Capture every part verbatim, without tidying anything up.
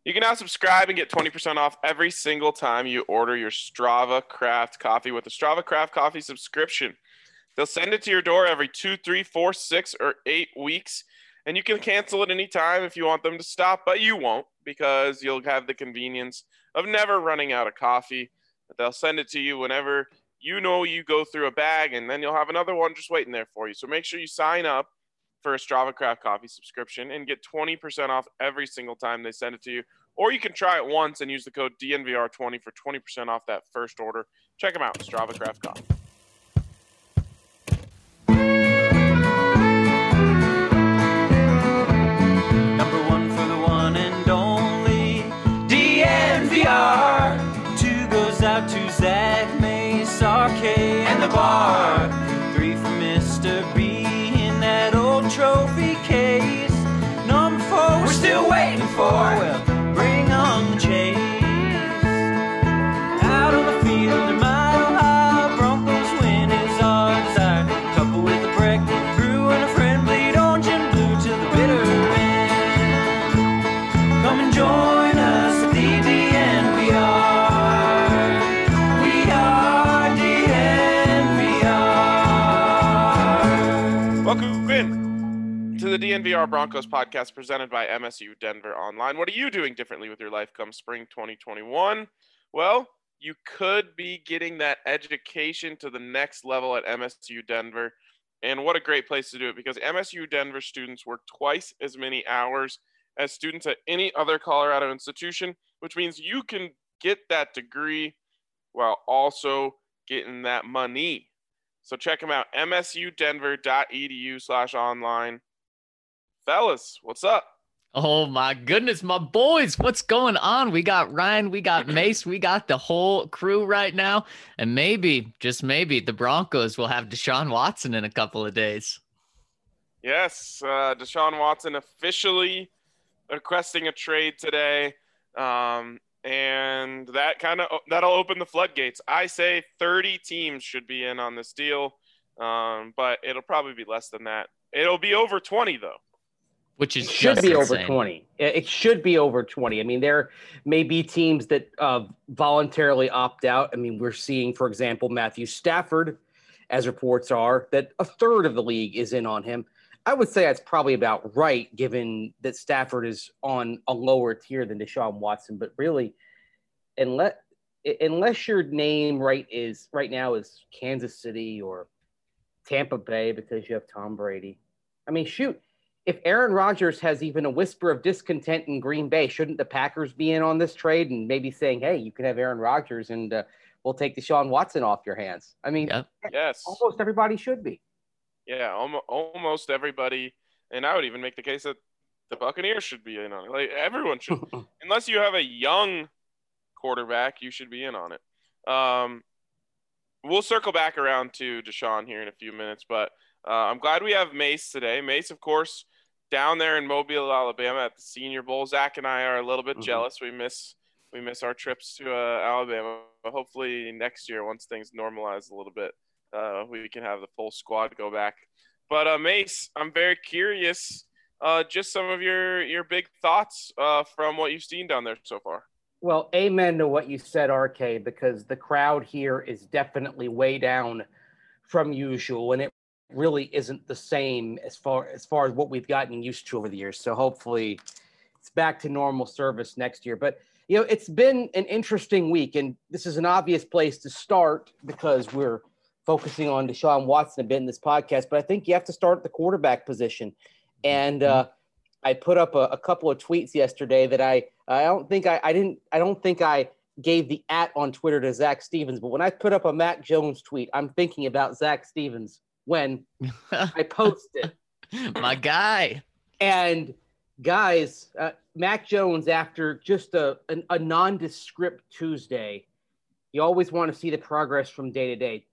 You can now subscribe and get twenty percent off every single time you order your Strava Craft coffee with the Strava Craft coffee subscription. They'll send it to your door every two, three, four, six, or eight weeks, and you can cancel it anytime if you want them to stop, but you won't because you'll have the convenience of never running out of coffee. But they'll send it to you whenever you know you go through a bag, and then you'll have another one just waiting there for you. So make sure you sign up for a Strava Craft coffee subscription and get twenty percent off every single time they send it to you. Or you can try it once and use the code D N V R twenty for twenty percent off that first order. Check them out, Strava Craft Coffee. Number one for the one and only D N V R. Two goes out to Zach, Mace, R K, and the bar. Three for Mister B. That old trophy case. Number four, we're still waiting for. Well, bring on the chase. Out on the field, in Mile High, Broncos win is our desire. Couple with a break, brew and a friend, bleed orange and blue till the bitter end. Come and join us at the D N V R. We are D N V R. Welcome in to the D N V R Broncos podcast presented by M S U Denver Online. What are you doing differently with your life come spring twenty twenty-one? Well, you could be getting that education to the next level at M S U Denver. And what a great place to do it, because M S U Denver students work twice as many hours as students at any other Colorado institution, which means you can get that degree while also getting that money. So check them out, m s u denver dot e d u slash online. Fellas, what's up? Oh my goodness, my boys, what's going on? We got Ryan, we got Mace, we got the whole crew right now. And maybe, just maybe, the Broncos will have Deshaun Watson in a couple of days. Yes, uh, Deshaun Watson officially requesting a trade today. Um, and that kind of, that'll open the floodgates. I say thirty teams should be in on this deal, um, but it'll probably be less than that. It'll be over twenty, though. Which is it should just be insane. over twenty. It should be over twenty. I mean, there may be teams that uh, voluntarily opt out. I mean, we're seeing, for example, Matthew Stafford, as reports are, that a third of the league is in on him. I would say that's probably about right, given that Stafford is on a lower tier than Deshaun Watson. But really, unless unless your name right is right now is Kansas City or Tampa Bay because you have Tom Brady. I mean, shoot. If Aaron Rodgers has even a whisper of discontent in Green Bay, shouldn't the Packers be in on this trade and maybe saying, hey, you can have Aaron Rodgers and uh, we'll take Deshaun Watson off your hands? I mean, yep. Yes, almost everybody should be. Yeah, almost, almost everybody. And I would even make the case that the Buccaneers should be in on it. Like, everyone should. Unless you have a young quarterback, you should be in on it. Um, we'll circle back around to Deshaun here in a few minutes, but uh, I'm glad we have Mace today. Mace, of course, down there in Mobile, Alabama at the Senior Bowl. Zach and I are a little bit mm-hmm. jealous. We miss we miss our trips to uh, Alabama. But hopefully next year, once things normalize a little bit, uh, we can have the full squad go back. But uh, Mace, I'm very curious. Uh, just some of your your big thoughts uh, from what you've seen down there so far. Well, amen to what you said, R K, because the crowd here is definitely way down from usual, and it really isn't the same as far as far as what we've gotten used to over the years. So hopefully it's back to normal service next year. But, you know, it's been an interesting week, and this is an obvious place to start because we're focusing on Deshaun Watson a bit in this podcast. But I think you have to start at the quarterback position. And uh, I put up a, a couple of tweets yesterday that I I don't think I, I didn't I don't think I gave the at on Twitter to Zach Stevens. But when I put up a Mac Jones tweet, I'm thinking about Zach Stevens when I posted. My guy. And guys, uh, Mac Jones, after just a, a, a nondescript Tuesday, you always want to see the progress from day to day.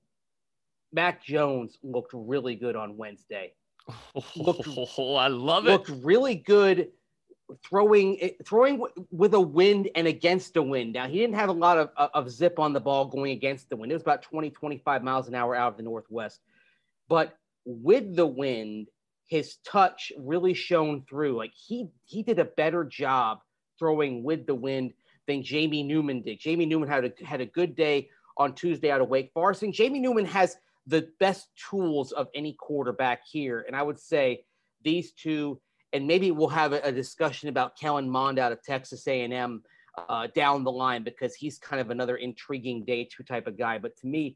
Mac Jones looked really good on Wednesday. Looked, oh, I love it. Looked really good throwing throwing with a wind and against the wind. Now, he didn't have a lot of, of zip on the ball going against the wind. It was about twenty, twenty-five miles an hour out of the northwest. But with the wind, his touch really shone through. Like he he did a better job throwing with the wind than Jamie Newman did. Jamie Newman had a, had a good day on Tuesday out of Wake Forest. And Jamie Newman has the best tools of any quarterback here. And I would say these two, and maybe we'll have a, a discussion about Kellen Mond out of Texas A and M uh, down the line, because he's kind of another intriguing day two type of guy. But to me,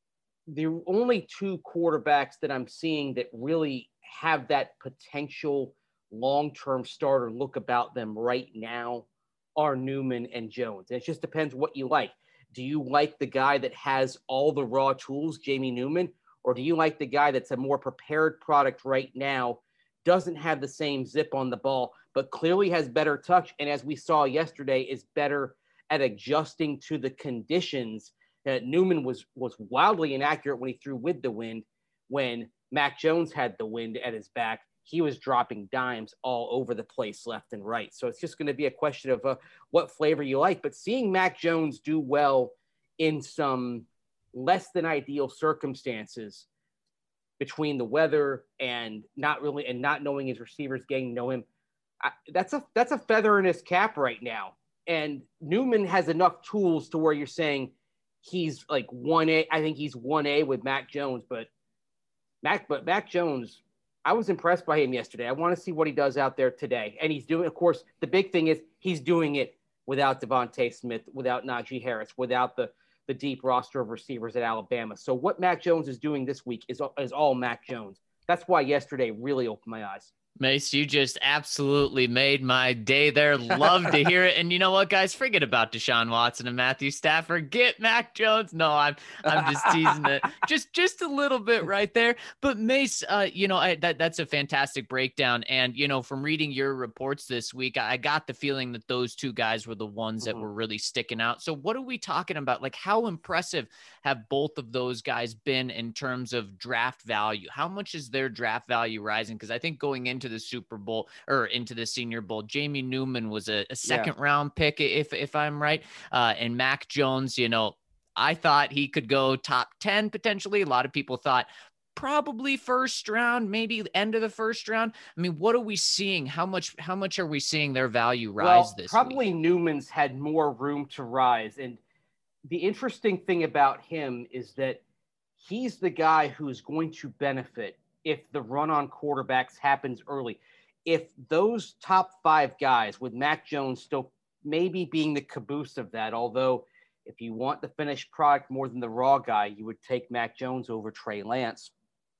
the only two quarterbacks that I'm seeing that really have that potential long-term starter look about them right now are Newman and Jones. And it just depends what you like. Do you like the guy that has all the raw tools, Jamie Newman, or do you like the guy that's a more prepared product right now, doesn't have the same zip on the ball, but clearly has better touch, and as we saw yesterday, is better at adjusting to the conditions? Uh, Newman was was wildly inaccurate when he threw with the wind. When Mac Jones had the wind at his back, he was dropping dimes all over the place, left and right. So it's just going to be a question of uh, what flavor you like. But seeing Mac Jones do well in some less than ideal circumstances, between the weather and not really and not knowing his receivers, getting to know him, I, that's a that's a feather in his cap right now. And Newman has enough tools to where you're saying he's like one A. I think he's one A with Mac Jones, but Mac but Mac Jones, I was impressed by him yesterday. I want to see what he does out there today. And he's doing, of course, the big thing is he's doing it without Devontae Smith, without Najee Harris, without the the deep roster of receivers at Alabama. So what Mac Jones is doing this week is, is all Mac Jones. That's why yesterday really opened my eyes. Mace, you just absolutely made my day there. Love to hear it. And you know what, guys? Forget about Deshaun Watson and Matthew Stafford. Get Mac Jones. No, I'm I'm just teasing it. Just just a little bit right there. But Mace, uh, you know, I, that that's a fantastic breakdown. And, you know, from reading your reports this week, I got the feeling that those two guys were the ones that mm-hmm. were really sticking out. So what are we talking about? Like, how impressive have both of those guys been in terms of draft value? How much is their draft value rising? Because I think going into the Super Bowl or into the Senior Bowl, Jamie Newman was a, a second yeah. round pick, if if I'm right. Uh, and Mac Jones, you know, I thought he could go top ten potentially. A lot of people thought probably first round, maybe end of the first round. I mean, what are we seeing? How much how much are we seeing their value rise well, this probably week? Newman's had more room to rise. And the interesting thing about him is that he's the guy who's going to benefit if the run on quarterbacks happens early. If those top five guys, with Mac Jones still maybe being the caboose of that, although if you want the finished product more than the raw guy, you would take Mac Jones over Trey Lance.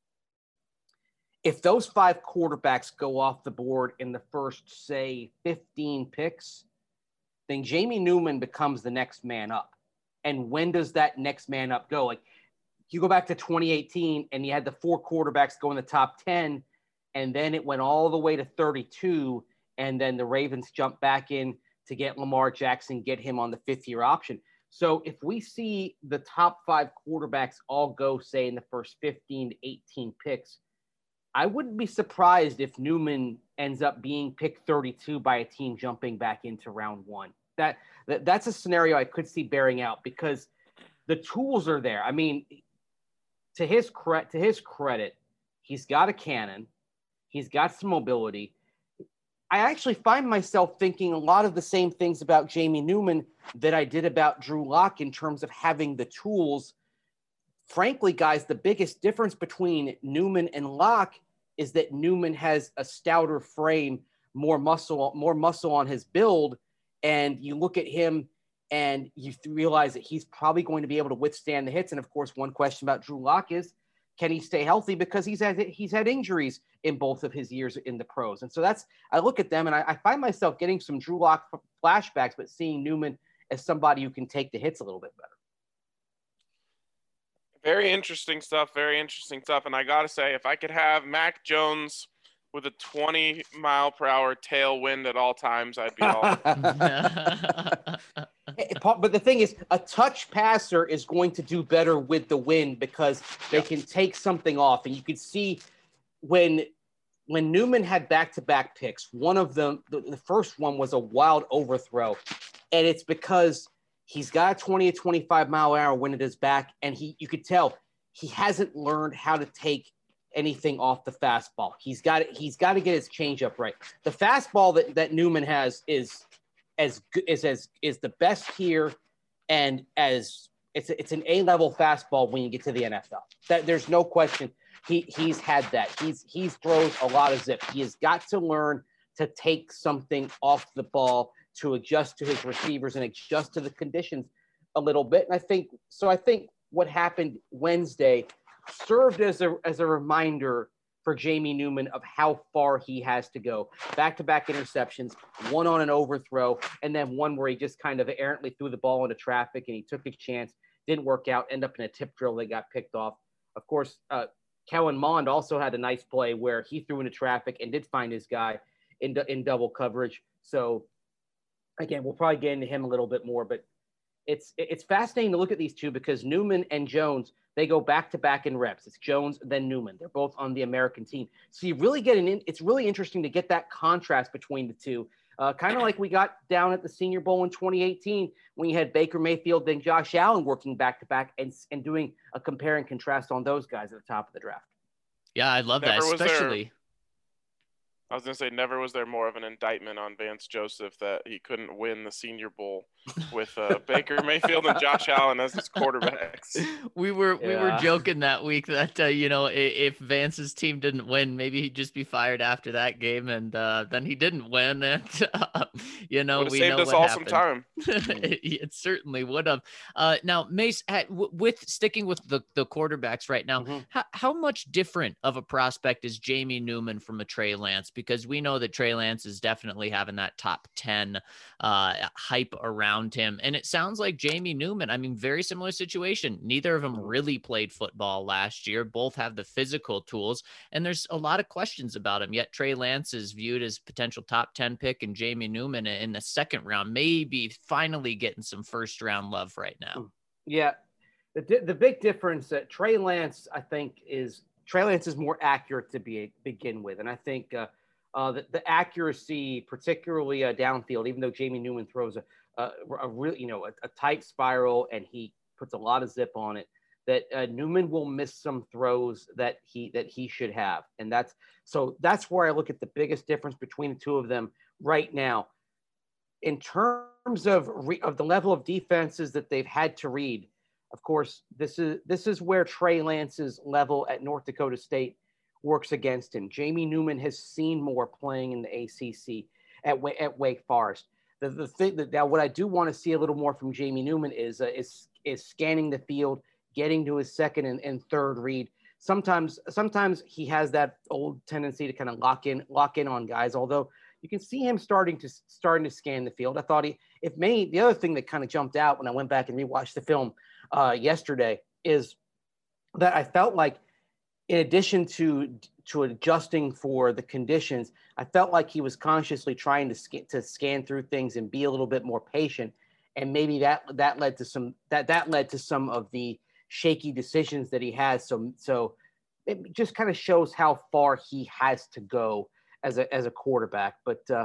If those five quarterbacks go off the board in the first, say, fifteen picks, then Jamie Newman becomes the next man up. And when does that next man up go? Like, you go back to twenty eighteen and you had the four quarterbacks go in the top ten, and then it went all the way to thirty-two, and then the Ravens jumped back in to get Lamar Jackson, get him on the fifth year option. So if we see the top five quarterbacks all go, say, in the first fifteen to eighteen picks, I wouldn't be surprised if Newman ends up being picked thirty-two by a team jumping back into round one. That, that that's a scenario I could see bearing out, because the tools are there. I mean, To his credit, to his credit, he's got a cannon. He's got some mobility. I actually find myself thinking a lot of the same things about Jamie Newman that I did about Drew Lock in terms of having the tools. Frankly, guys, the biggest difference between Newman and Lock is that Newman has a stouter frame, more muscle, more muscle on his build, and you look at him and you realize that he's probably going to be able to withstand the hits. And of course, one question about Drew Lock is, can he stay healthy? Because he's had, he's had injuries in both of his years in the pros. And so that's, I look at them and I, I find myself getting some Drew Lock flashbacks, but seeing Newman as somebody who can take the hits a little bit better. Very interesting stuff. Very interesting stuff. And I got to say, if I could have Mac Jones with a twenty mile per hour tailwind at all times, I'd be all. But the thing is, a touch passer is going to do better with the wind because they yeah. can take something off. And you could see when when Newman had back-to-back picks, one of them, the, the first one was a wild overthrow. And it's because he's got a twenty to twenty-five mile an hour wind at his back. And he, you could tell he hasn't learned how to take anything off the fastball. He's got he's got to get his changeup right. The fastball that, that Newman has is as good is as is the best here, and as it's it's an A-level fastball when you get to the N F L. That there's no question. He he's had that. He's he's throws a lot of zip. He has got to learn to take something off the ball, to adjust to his receivers and adjust to the conditions a little bit. And I think so. I think what happened Wednesday served as a as a reminder for Jamie Newman of how far he has to go. Back-to-back interceptions, one on an overthrow, and then one where he just kind of errantly threw the ball into traffic and he took a chance, didn't work out, ended up in a tip drill that got picked off. Of course, uh, Kellen Mond also had a nice play where he threw into traffic and did find his guy in, in double coverage. So, again, we'll probably get into him a little bit more, but it's it's fascinating to look at these two because Newman and Jones, they go back-to-back in reps. It's Jones, then Newman. They're both on the American team. So you really get an in, it's really interesting to get that contrast between the two. Uh, kind of like we got down at the Senior Bowl in twenty eighteen when you had Baker Mayfield and Josh Allen working back-to-back and, and doing a compare and contrast on those guys at the top of the draft. Yeah, I love Never that, was especially. There, I was going to say, never was there more of an indictment on Vance Joseph that he couldn't win the Senior Bowl with uh, Baker Mayfield and Josh Allen as his quarterbacks. We were yeah. we were joking that week that uh, you know if, if Vance's team didn't win, maybe he'd just be fired after that game, and uh, then he didn't win, and uh, you know Would've we saved know us what all happened. some time. it, it certainly would have. Uh, now, Mace, at, w- with sticking with the the quarterbacks right now, mm-hmm. how how much different of a prospect is Jamie Newman from a Trey Lance? Because we know that Trey Lance is definitely having that top ten uh, hype around him. And it sounds like Jamie Newman, I mean, very similar situation. Neither of them really played football last year. Both have the physical tools. And there's a lot of questions about him. Yet Trey Lance is viewed as potential top ten pick, and Jamie Newman in the second round, maybe finally getting some first round love right now. Yeah. The, the big difference that Trey Lance, I think, is Trey Lance is more accurate to be begin with. And I think, uh, Uh, the, the accuracy, particularly uh, downfield, even though Jamie Newman throws a, a, a real, you know, a, a tight spiral and he puts a lot of zip on it, that uh, Newman will miss some throws that he that he should have, and that's so that's where I look at the biggest difference between the two of them right now. In terms of re, of the level of defenses that they've had to read, of course, this is this is where Trey Lance's level at North Dakota State works against him. Jamie Newman has seen more playing in the A C C at at Wake Forest. The the thing that now what I do want to see a little more from Jamie Newman is uh, is is scanning the field, getting to his second and, and third read. Sometimes sometimes he has that old tendency to kind of lock in lock in on guys. Although you can see him starting to starting to scan the field. I thought he if me the other thing that kind of jumped out when I went back and rewatched the film uh, yesterday is that I felt like, in addition to to adjusting for the conditions, I felt like he was consciously trying to scan, to scan through things and be a little bit more patient, and maybe that that led to some that that led to some of the shaky decisions that he has. So so it just kind of shows how far he has to go as a as a quarterback. But uh,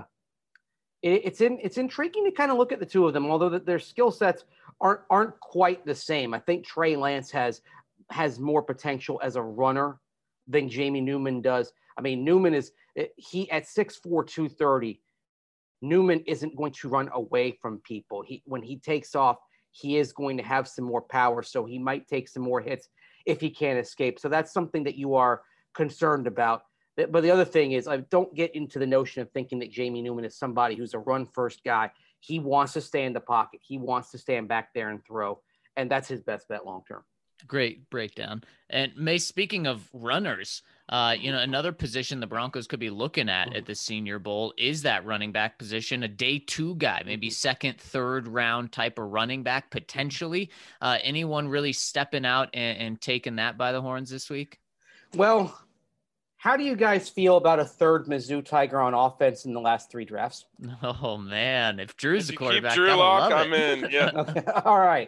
it, it's in it's intriguing to kind of look at the two of them, although that their skill sets aren't aren't quite the same. I think Trey Lance has. has more potential as a runner than Jamie Newman does. I mean, Newman is he at six four, two thirty. Newman isn't going to run away from people. He when he takes off, he is going to have some more power, so he might take some more hits if he can't escape. So that's something that you are concerned about. But the other thing is, I don't get into the notion of thinking that Jamie Newman is somebody who's a run-first guy. He wants to stay in the pocket. He wants to stand back there and throw, and that's his best bet long term. Great breakdown. And May, speaking of runners, uh, you know, another position the Broncos could be looking at at the Senior Bowl is that running back position, a day two guy, maybe second, third round type of running back, potentially. Uh, anyone really stepping out and, and taking that by the horns this week? Well, how do you guys feel about a third Mizzou Tiger on offense in the last three drafts? Oh, man. If Drew's if the you quarterback, keep Drew I Lock, love it. I'm in. Yeah. Okay. All right.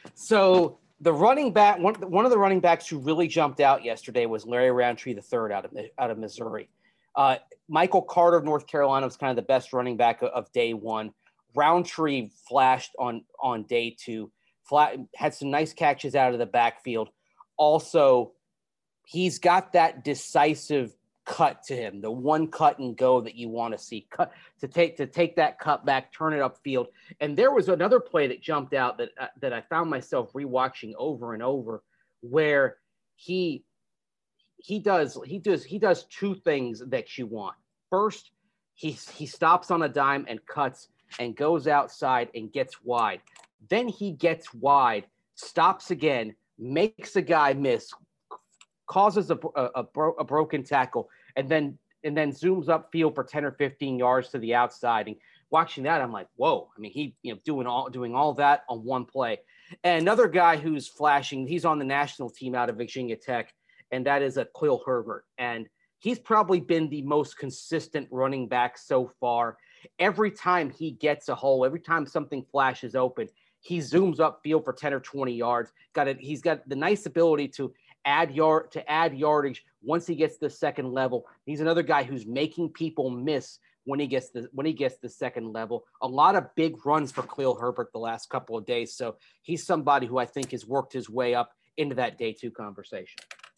So the running back, one, one of the running backs who really jumped out yesterday was Larry Roundtree the third out of out of Missouri. Uh, Michael Carter of North Carolina was kind of the best running back of, of day one. Roundtree flashed on on day two. Flat, had some nice catches out of the backfield. Also, he's got that decisive cut to him, the one cut and go that you want to see, cut to take to take that cut back, turn it upfield. And there was another play that jumped out that uh, that I found myself rewatching over and over, where he he does he does he does two things that you want. First, he he stops on a dime and cuts and goes outside and gets wide. Then he gets wide, stops again, makes a guy miss, causes a, a, a, bro, a broken tackle, and then and then zooms upfield for ten or fifteen yards to the outside. And watching that, I'm like, whoa! I mean, he you know doing all doing all that on one play. And another guy who's flashing, he's on the national team out of Virginia Tech, and that is a Khalil Herbert. And he's probably been the most consistent running back so far. Every time he gets a hole, every time something flashes open, he zooms upfield for ten or twenty yards. Got it. He's got the nice ability to add yard to add yardage once he gets to the second level. He's another guy who's making people miss when he gets the when he gets the second level. A lot of big runs for Khalil Herbert the last couple of days. So he's somebody who I think has worked his way up into that day two conversation.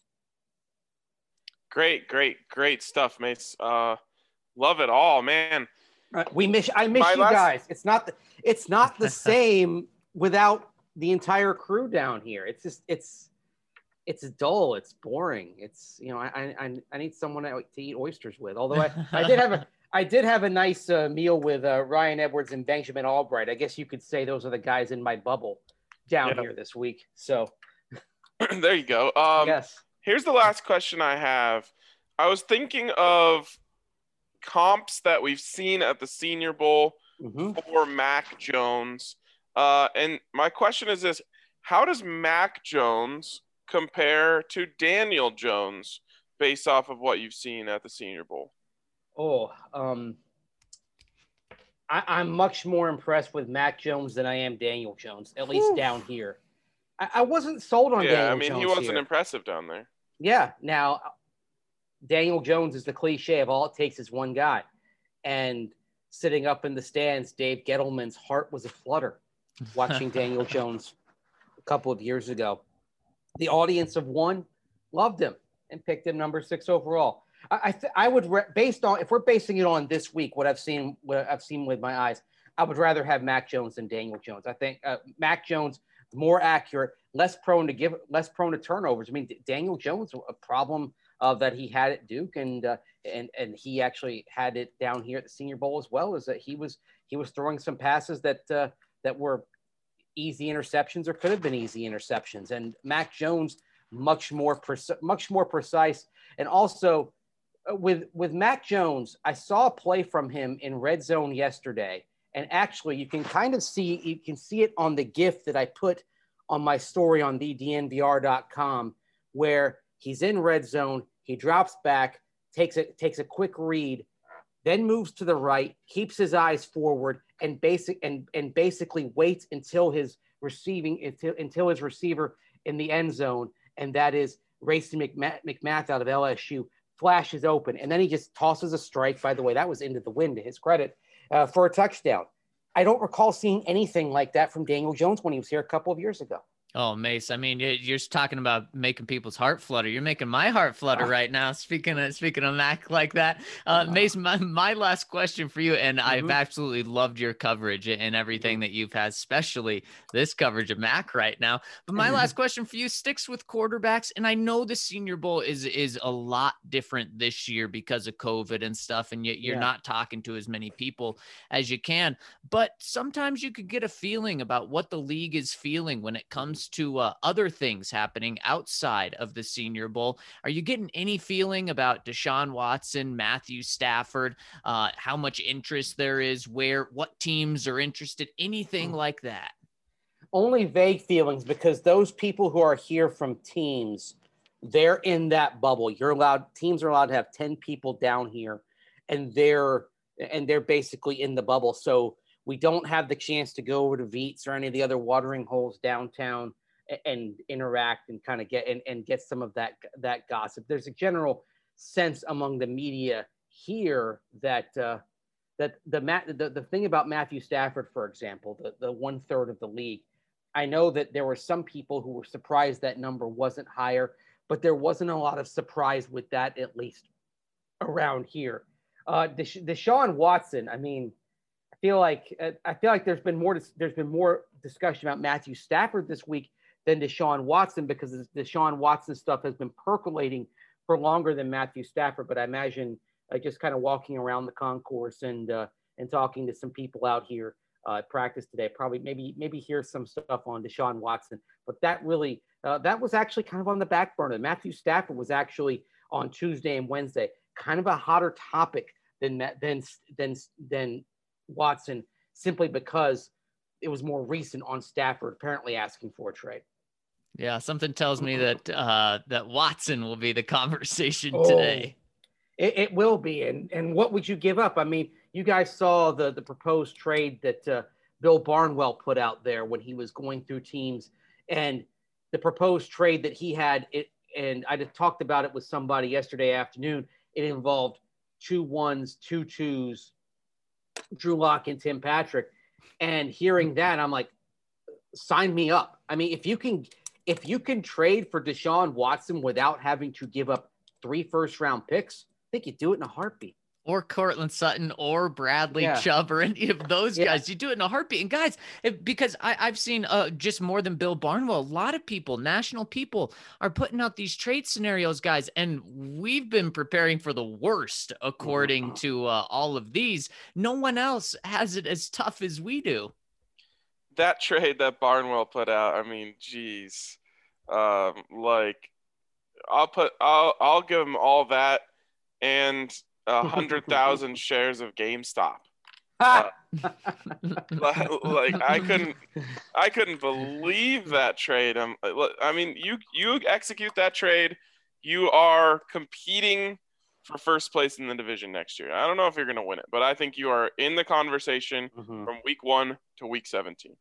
Great, great, great stuff, Mace. Uh, love it all, man. Uh, we miss. I miss My you last- guys. It's not. The, it's not the same without the entire crew down here. It's just. It's. It's dull. It's boring. It's you know. I I I need someone to eat oysters with. Although I, I did have a I did have a nice uh, meal with uh, Ryan Edwards and Benjamin Albright. I guess you could say those are the guys in my bubble down Yeah. here this week. So There you go. Um, yes. Here's the last question I have. I was thinking of comps that we've seen at the Senior Bowl Mm-hmm. for Mac Jones. Uh, and my question is this: how does Mac Jones compare to Daniel Jones based off of what you've seen at the Senior Bowl? Oh, um, I, I'm much more impressed with Mac Jones than I am Daniel Jones, at least Whew. down here. I, I wasn't sold on Yeah, Daniel I mean, Jones he wasn't here. impressive down there. Yeah. Now, Daniel Jones is the cliche of all it takes is one guy. And sitting up in the stands, Dave Gettleman's heart was aflutter watching Daniel Jones a couple of years ago. The audience of one loved him and picked him number six overall. I I, th- I would, re- based on, if we're basing it on this week, what I've seen, what I've seen with my eyes, I would rather have Mac Jones than Daniel Jones. I think uh, Mac Jones more accurate, less prone to give, less prone to turnovers. I mean, D- Daniel Jones, a problem uh, that he had at Duke, and uh, and and he actually had it down here at the Senior Bowl as well. Is that he was he was throwing some passes that uh, that were easy interceptions or could have been easy interceptions, and Mac Jones much more pre- much more precise, and also uh, with with Mac Jones, I saw a play from him in red zone yesterday. And actually, you can kind of see, you can see it on the GIF that I put on my story on the D N V R dot com, where he's in red zone, he drops back, takes a, takes a quick read, then moves to the right, keeps his eyes forward, and basic and, and basically waits until his receiving until, until his receiver in the end zone, and that is Racey McMath, McMath out of L S U, flashes open, and then he just tosses a strike. By the way, that was into the wind to his credit. Uh, for a touchdown. I don't recall seeing anything like that from Daniel Jones when he was here a couple of years ago. Oh, Mace, I mean, you- you're just talking about making people's heart flutter. You're making my heart flutter right now. Speaking of speaking of Mac like that, uh, Mace, my, my last question for you, and I've Mhm. absolutely loved your coverage and everything that you've had, especially this coverage of Mac right now. But my last question for you sticks with quarterbacks, and I know the Senior Bowl is is a lot different this year because of COVID and stuff, and yet you're Yeah. not talking to as many people as you can. But sometimes you could get a feeling about what the league is feeling when it comes to uh, other things happening outside of the Senior Bowl. Are you getting any feeling about Deshaun Watson, Matthew Stafford, uh, how much interest there is, where, what teams are interested, anything like that? Only vague feelings, because those people who are here from teams, they're in that bubble. You're allowed, teams are allowed to have ten people down here, and they're and they're basically in the bubble. So we don't have the chance to go over to Veets or any of the other watering holes downtown and interact and kind of get and, and get some of that that gossip. There's a general sense among the media here that uh, that the, the the thing about Matthew Stafford, for example, the, the one third of the league, I know that there were some people who were surprised that number wasn't higher, but there wasn't a lot of surprise with that, at least around here. Uh, Desha- Deshaun Watson. I mean, I feel like I feel like there's been more there's been more discussion about Matthew Stafford this week than Deshaun Watson because the Deshaun Watson stuff has been percolating for longer than Matthew Stafford. But I imagine uh, just kind of walking around the concourse and uh, and talking to some people out here uh, at practice today, probably maybe maybe hear some stuff on Deshaun Watson. But that really uh, that was actually kind of on the back burner. Matthew Stafford was actually on Tuesday and Wednesday, kind of a hotter topic than than than than Watson, simply because it was more recent on Stafford apparently asking for a trade. Yeah, something tells me that uh, that Watson will be the conversation oh, today. It, it will be, and and what would you give up? I mean, you guys saw the the proposed trade that uh, Bill Barnwell put out there when he was going through teams, and the proposed trade that he had. It and I just talked about it with somebody yesterday afternoon. It involved two ones, two twos, Drew Lock and Tim Patrick. And hearing that, I'm like, sign me up. I mean, if you can, if you can trade for Deshaun Watson without having to give up three first round picks, I think you do it in a heartbeat. Or Cortland Sutton or Bradley yeah. Chubb or any of those yeah. guys. You do it in a heartbeat. And guys, if, because I, I've seen uh, just more than Bill Barnwell, a lot of people, national people are putting out these trade scenarios, guys. And we've been preparing for the worst, according mm-hmm. to uh, all of these. No one else has it as tough as we do. That trade that Barnwell put out, I mean, geez. Um, like, I'll put, I'll, I'll give them all that and a hundred thousand shares of GameStop. Uh, like I couldn't, I couldn't believe that trade. Um, I mean, you you execute that trade, you are competing for first place in the division next year. I don't know if you're going to win it, but I think you are in the conversation mm-hmm. from week one to week seventeen.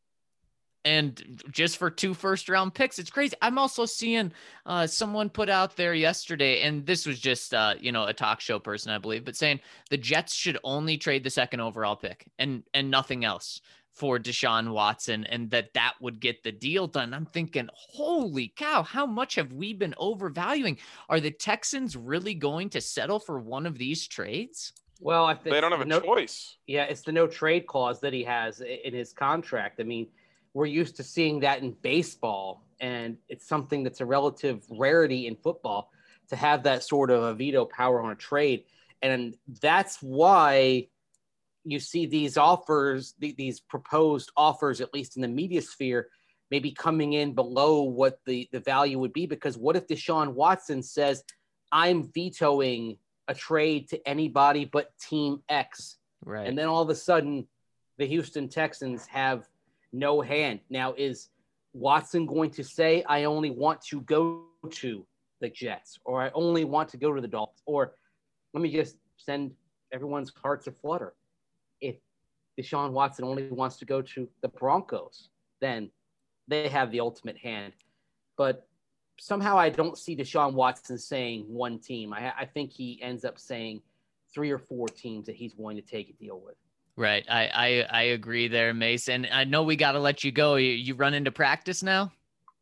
And just for two first round picks, it's crazy. I'm also seeing uh, someone put out there yesterday, and this was just, uh, you know, a talk show person, I believe, but saying the Jets should only trade the second overall pick and, and nothing else for Deshaun Watson, and that that would get the deal done. I'm thinking, holy cow, how much have we been overvaluing? Are the Texans really going to settle for one of these trades? Well, I think they don't have a no, choice. Yeah, it's the no trade clause that he has in his contract. I mean, we're used to seeing that in baseball, and it's something that's a relative rarity in football to have that sort of a veto power on a trade. And that's why you see these offers, these proposed offers, at least in the media sphere, maybe coming in below what the, the value would be. Because what if Deshaun Watson says, I'm vetoing a trade to anybody but Team X? Right. And then all of a sudden, the Houston Texans have no hand. Now, is Watson going to say, I only want to go to the Jets, or I only want to go to the Dolphins, or let me just send everyone's hearts aflutter? If Deshaun Watson only wants to go to the Broncos, then they have the ultimate hand. But somehow I don't see Deshaun Watson saying one team. I, I think he ends up saying three or four teams that he's going to take a deal with. Right. I, I, I agree there, Mason. I know we got to let you go. You, you run into practice now?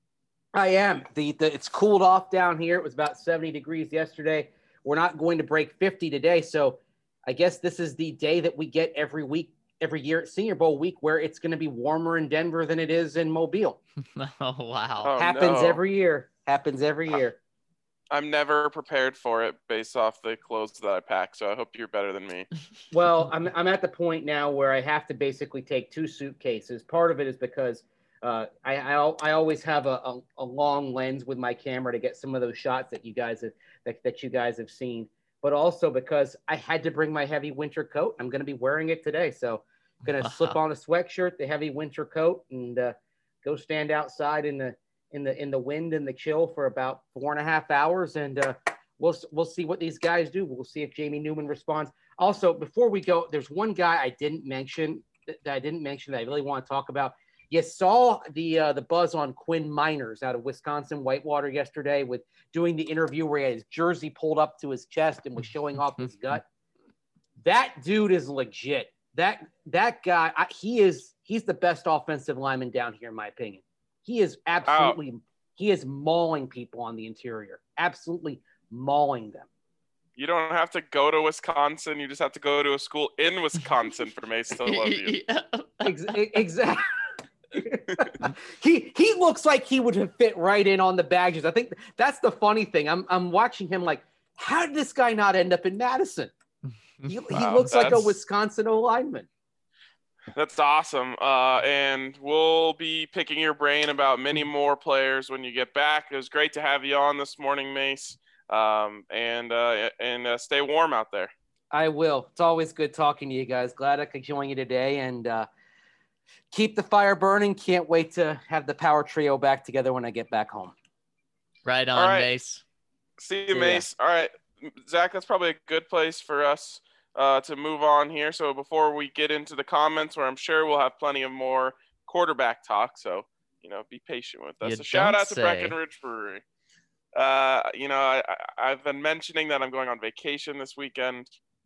I am. The, the It's cooled off down here. It was about seventy degrees yesterday. We're not going to break fifty today. So I guess this is the day that we get every week, every year at Senior Bowl week, where it's going to be warmer in Denver than it is in Mobile. Oh, wow. Oh, Happens no. every year. Happens every year. I'm never prepared for it based off the clothes that I pack, so I hope you're better than me. Well, I'm I'm at the point now where I have to basically take two suitcases. Part of it is because uh, I, I I always have a, a, a long lens with my camera to get some of those shots that you guys have that, that you guys have seen, but also because I had to bring my heavy winter coat. I'm going to be wearing it today, so I'm going to slip on a sweatshirt, the heavy winter coat, and uh, go stand outside in the in the in the wind and the chill for about four and a half hours, and uh, we'll we'll see what these guys do. We'll see if Jamie Newman responds. Also, before we go, there's one guy I didn't mention that I didn't mention that I really want to talk about. You saw the uh, the buzz on Quinn Miners out of Wisconsin Whitewater yesterday with doing the interview where he had his jersey pulled up to his chest and was showing off his gut. That dude is legit. That that guy, I, he is he's the best offensive lineman down here in my opinion. He is absolutely, oh. he is mauling people on the interior, absolutely mauling them. You don't have to go to Wisconsin. You just have to go to a school in Wisconsin for Mace to love you. Exactly. he he looks like he would have fit right in on the Badgers. I think that's the funny thing. I'm I'm watching him like, how did this guy not end up in Madison? He, wow, he looks like a Wisconsin O lineman. That's awesome. Uh, and we'll be picking your brain about many more players when you get back. It was great to have you on this morning, Mace. Um, and uh, and uh, stay warm out there. I will. It's always good talking to you guys. Glad I could join you today, and uh, keep the fire burning. Can't wait to have the power trio back together when I get back home. Right on, right. Mace. See you, Mace. Yeah. All right, Zach, that's probably a good place for us uh, to move on here. So before we get into the comments, where I'm sure we'll have plenty of more quarterback talk, so you know, be patient with us. You a shout out say. to Breckenridge Brewery. Uh, you know, I, I've been mentioning that I'm going on vacation this weekend.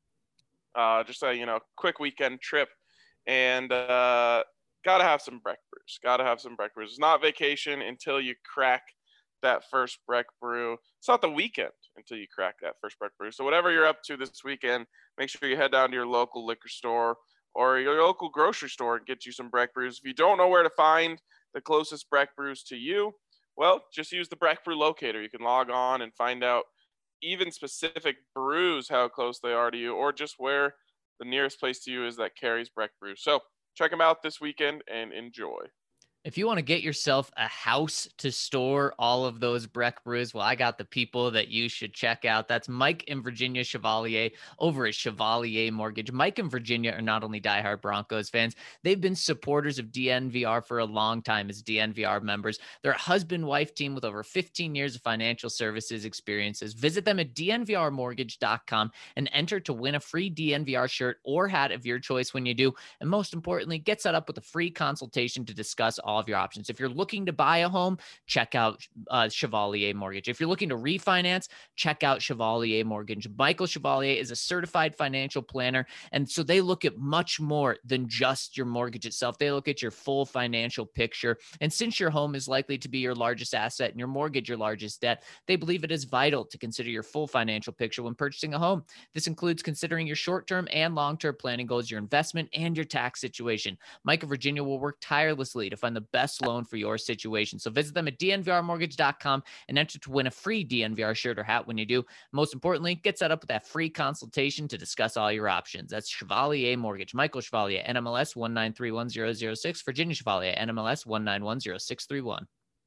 Uh, just a, you know, quick weekend trip, and uh, gotta have some Breck brews. Gotta have some Breck brews. It's not vacation until you crack that first Breck brew. It's not the weekend until you crack that first Breck brew. So whatever you're up to this weekend, make sure you head down to your local liquor store or your local grocery store and get you some Breck brews. If you don't know where to find the closest Breck brews to you, well, just use the Breck Brew Locator. You can log on and find out even specific brews, how close they are to you, or just where the nearest place to you is that carries Breck Brew. So check them out this weekend and enjoy. If you want to get yourself a house to store all of those Breck brews, well, I got the people that you should check out. That's Mike and Virginia Chevalier over at Chevalier Mortgage. Mike and Virginia are not only diehard Broncos fans, they've been supporters of D N V R for a long time as D N V R members. They're a husband-wife team with over fifteen years of financial services experiences. Visit them at D N V R mortgage dot com and enter to win a free D N V R shirt or hat of your choice when you do. And most importantly, get set up with a free consultation to discuss all all of your options. If you're looking to buy a home, check out uh, Chevalier Mortgage. If you're looking to refinance, check out Chevalier Mortgage. Michael Chevalier is a certified financial planner, and so they look at much more than just your mortgage itself. They look at your full financial picture. And since your home is likely to be your largest asset and your mortgage your largest debt, they believe it is vital to consider your full financial picture when purchasing a home. This includes considering your short-term and long-term planning goals, your investment, and your tax situation. Mike of Virginia will work tirelessly to find the best loan for your situation. So visit them at D N V R mortgage dot com and enter to win a free D N V R shirt or hat when you do. Most importantly, get set up with that free consultation to discuss all your options. That's Chevalier Mortgage. Michael Chevalier, N M L S one nine three one zero zero six. Virginia Chevalier, N M L S one nine one zero six three one.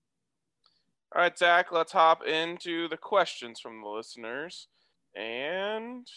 All right, Zach, let's hop into the questions from the listeners. And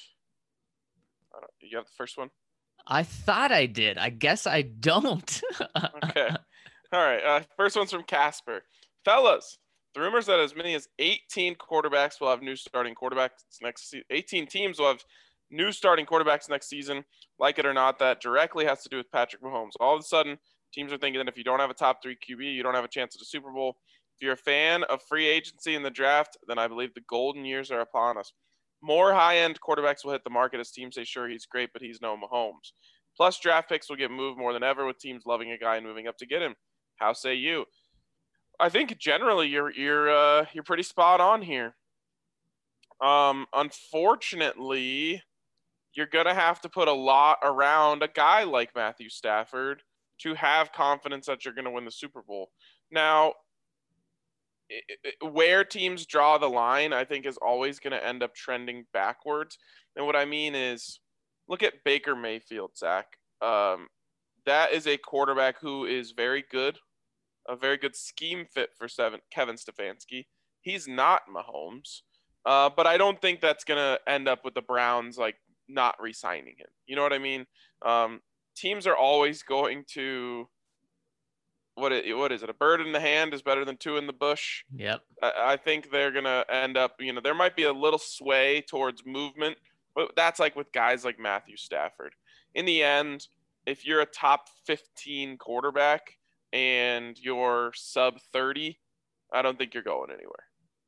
I don't, you have the first one? I thought I did. I guess I don't. Okay. All right. Uh, first one's from Casper. Fellas, the rumors that as many as eighteen quarterbacks will have new starting quarterbacks next season. eighteen teams will have new starting quarterbacks next season. Like it or not, that directly has to do with Patrick Mahomes. All of a sudden, teams are thinking that if you don't have a top three Q B, you don't have a chance at a Super Bowl. If you're a fan of free agency in the draft, then I believe the golden years are upon us. More high-end quarterbacks will hit the market as teams say, sure, he's great, but he's no Mahomes. Plus, draft picks will get moved more than ever with teams loving a guy and moving up to get him. How say you? I think generally you're you're uh, you're pretty spot on here. Um, unfortunately, you're gonna have to put a lot around a guy like Matthew Stafford to have confidence that you're gonna win the Super Bowl. Now, it, it, where teams draw the line, I think, is always gonna end up trending backwards. And what I mean is, look at Baker Mayfield, Zach. Um, that is a quarterback who is very good. A very good scheme fit for seven, Kevin Stefanski. He's not Mahomes, uh, but I don't think that's going to end up with the Browns like not re-signing him. You know what I mean? Um, teams are always going to what it, what is it? A bird in the hand is better than two in the bush. Yep. I, I think they're going to end up, you know, there might be a little sway towards movement, but that's like with guys like Matthew Stafford. In the end, if you're a top fifteen quarterback and you're sub thirty, I don't think you're going anywhere.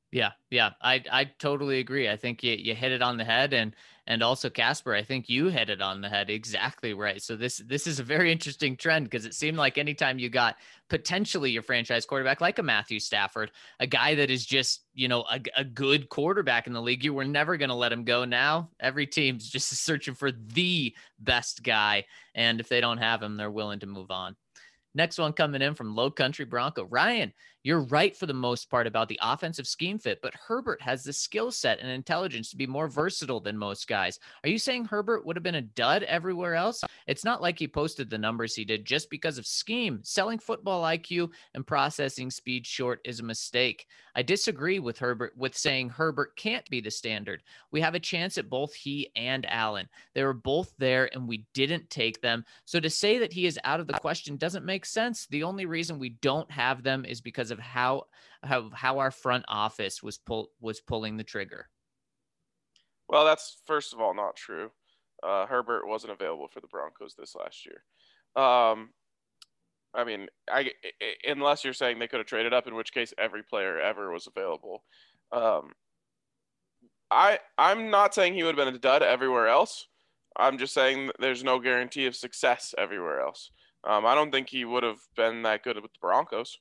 Yeah, yeah, I I totally agree. I think you you hit it on the head, and and also Casper, I think you hit it on the head exactly right. So this this is a very interesting trend because it seemed like anytime you got potentially your franchise quarterback like a Matthew Stafford, a guy that is just, you know, a, a good quarterback in the league, you were never going to let him go. Now every team's just searching for the best guy, and if they don't have him, they're willing to move on. Next one coming in from Low Country Bronco. Ryan, you're right for the most part about the offensive scheme fit, but Herbert has the skill set and intelligence to be more versatile than most guys. Are you saying Herbert would have been a dud everywhere else? It's not like he posted the numbers he did just because of scheme. Selling football I Q and processing speed short is a mistake. I disagree with Herbert with saying Herbert can't be the standard. We have a chance at both he and Allen. They were both there and we didn't take them. So to say that he is out of the question doesn't make sense. The only reason we don't have them is because of how how, how our front office was pull, was pulling the trigger. Well, that's first of all not true. Uh, Herbert wasn't available for the Broncos this last year. Um, I mean, I, I, unless you're saying they could have traded up, in which case every player ever was available. Um, I I'm not saying he would have been a dud everywhere else. I'm just saying there's no guarantee of success everywhere else. Um, I don't think he would have been that good with the Broncos.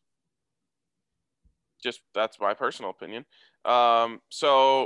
Just that's my personal opinion. Um, so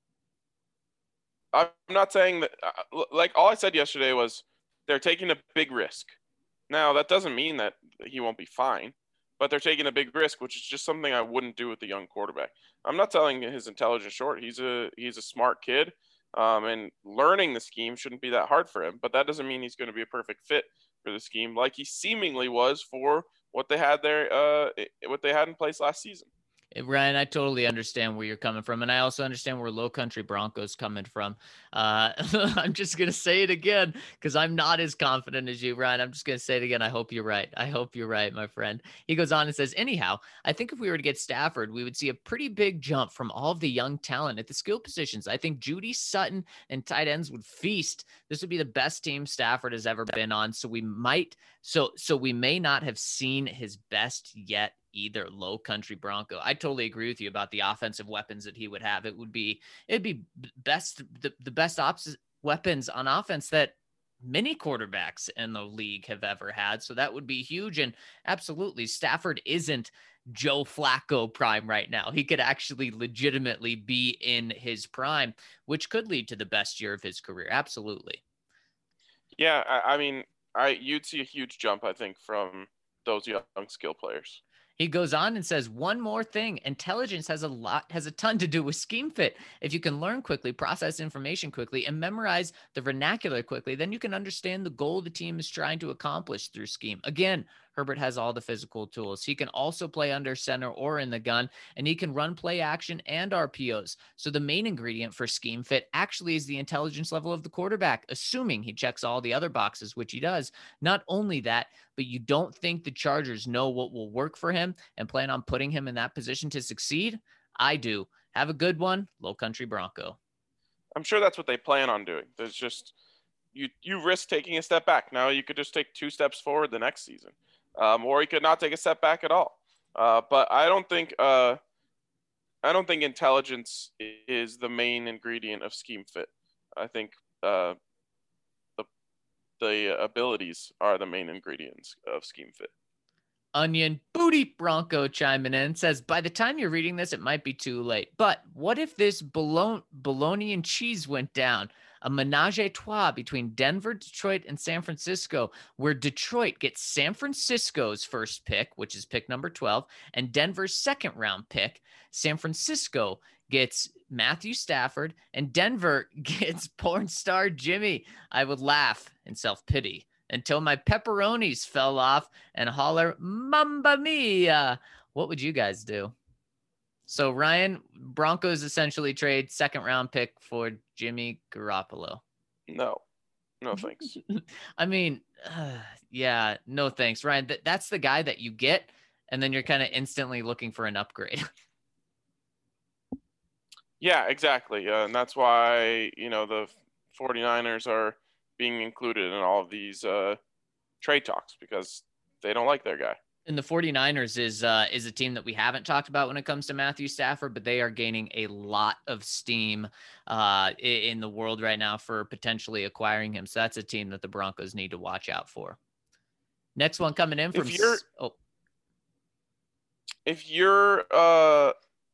I'm not saying that. Uh, like all I said yesterday was they're taking a big risk. Now that doesn't mean that he won't be fine, but they're taking a big risk, which is just something I wouldn't do with the young quarterback. I'm not telling his intelligence short. He's a he's a smart kid, um, and learning the scheme shouldn't be that hard for him. But that doesn't mean he's going to be a perfect fit for the scheme, like he seemingly was for what they had there, uh, what they had in place last season. Ryan, I totally understand where you're coming from. And I also understand where Low Country Bronco's coming from. Uh, I'm just going to say it again because I'm not as confident as you, Ryan. I'm just going to say it again. I hope you're right. I hope you're right, my friend. He goes on and says, anyhow, I think if we were to get Stafford, we would see a pretty big jump from all of the young talent at the skill positions. I think Judy, Sutton, and tight ends would feast. This would be the best team Stafford has ever been on. So we might, so, so we may not have seen his best yet either. Low Country Bronco. I totally agree with you about the offensive weapons that he would have. It would be, it'd be best, the, the best ops weapons on offense that many quarterbacks in the league have ever had. So that would be huge. And absolutely, Stafford isn't Joe Flacco prime right now. He could actually legitimately be in his prime, which could lead to the best year of his career. Absolutely. Yeah. I, I mean, I, you'd see a huge jump, I think, from those young skill players. He goes on and says, one more thing, intelligence has a lot, has a ton to do with scheme fit. If you can learn quickly, process information quickly, and memorize the vernacular quickly, then you can understand the goal the team is trying to accomplish through scheme. Again, Herbert has all the physical tools. He can also play under center or in the gun, and he can run play action and R P Os. So the main ingredient for scheme fit actually is the intelligence level of the quarterback, assuming he checks all the other boxes, which he does. Not only that, but you don't think the Chargers know what will work for him and plan on putting him in that position to succeed? I do. Have a good one, Low Country Bronco. I'm sure that's what they plan on doing. There's just you you risk taking a step back. Now you could just take two steps forward the next season. Um, or he could not take a step back at all. Uh, but I don't think uh, I don't think intelligence is the main ingredient of scheme fit. I think uh, the the abilities are the main ingredients of scheme fit. Onion Booty Bronco chiming in says, by the time you're reading this, it might be too late. But what if this bologna, bologna and cheese went down? A menage a trois between Denver, Detroit, and San Francisco, where Detroit gets San Francisco's first pick, which is pick number twelve, and Denver's second round pick. San Francisco gets Matthew Stafford, and Denver gets porn star Jimmy. I would laugh in self-pity until my pepperonis fell off and holler, Mamma Mia. What would you guys do? So Ryan, Broncos essentially trade second round pick for Jimmy Garoppolo. No, no thanks. I mean, uh, yeah, no thanks, Ryan. Th- that's the guy that you get, and then you're kind of instantly looking for an upgrade. Yeah, exactly. Uh, and that's why, you know, the 49ers are being included in all of these uh, trade talks because they don't like their guy. And the 49ers is uh, is a team that we haven't talked about when it comes to Matthew Stafford, but they are gaining a lot of steam uh, in the world right now for potentially acquiring him. So that's a team that the Broncos need to watch out for. Next one coming in from if you're oh. if you're uh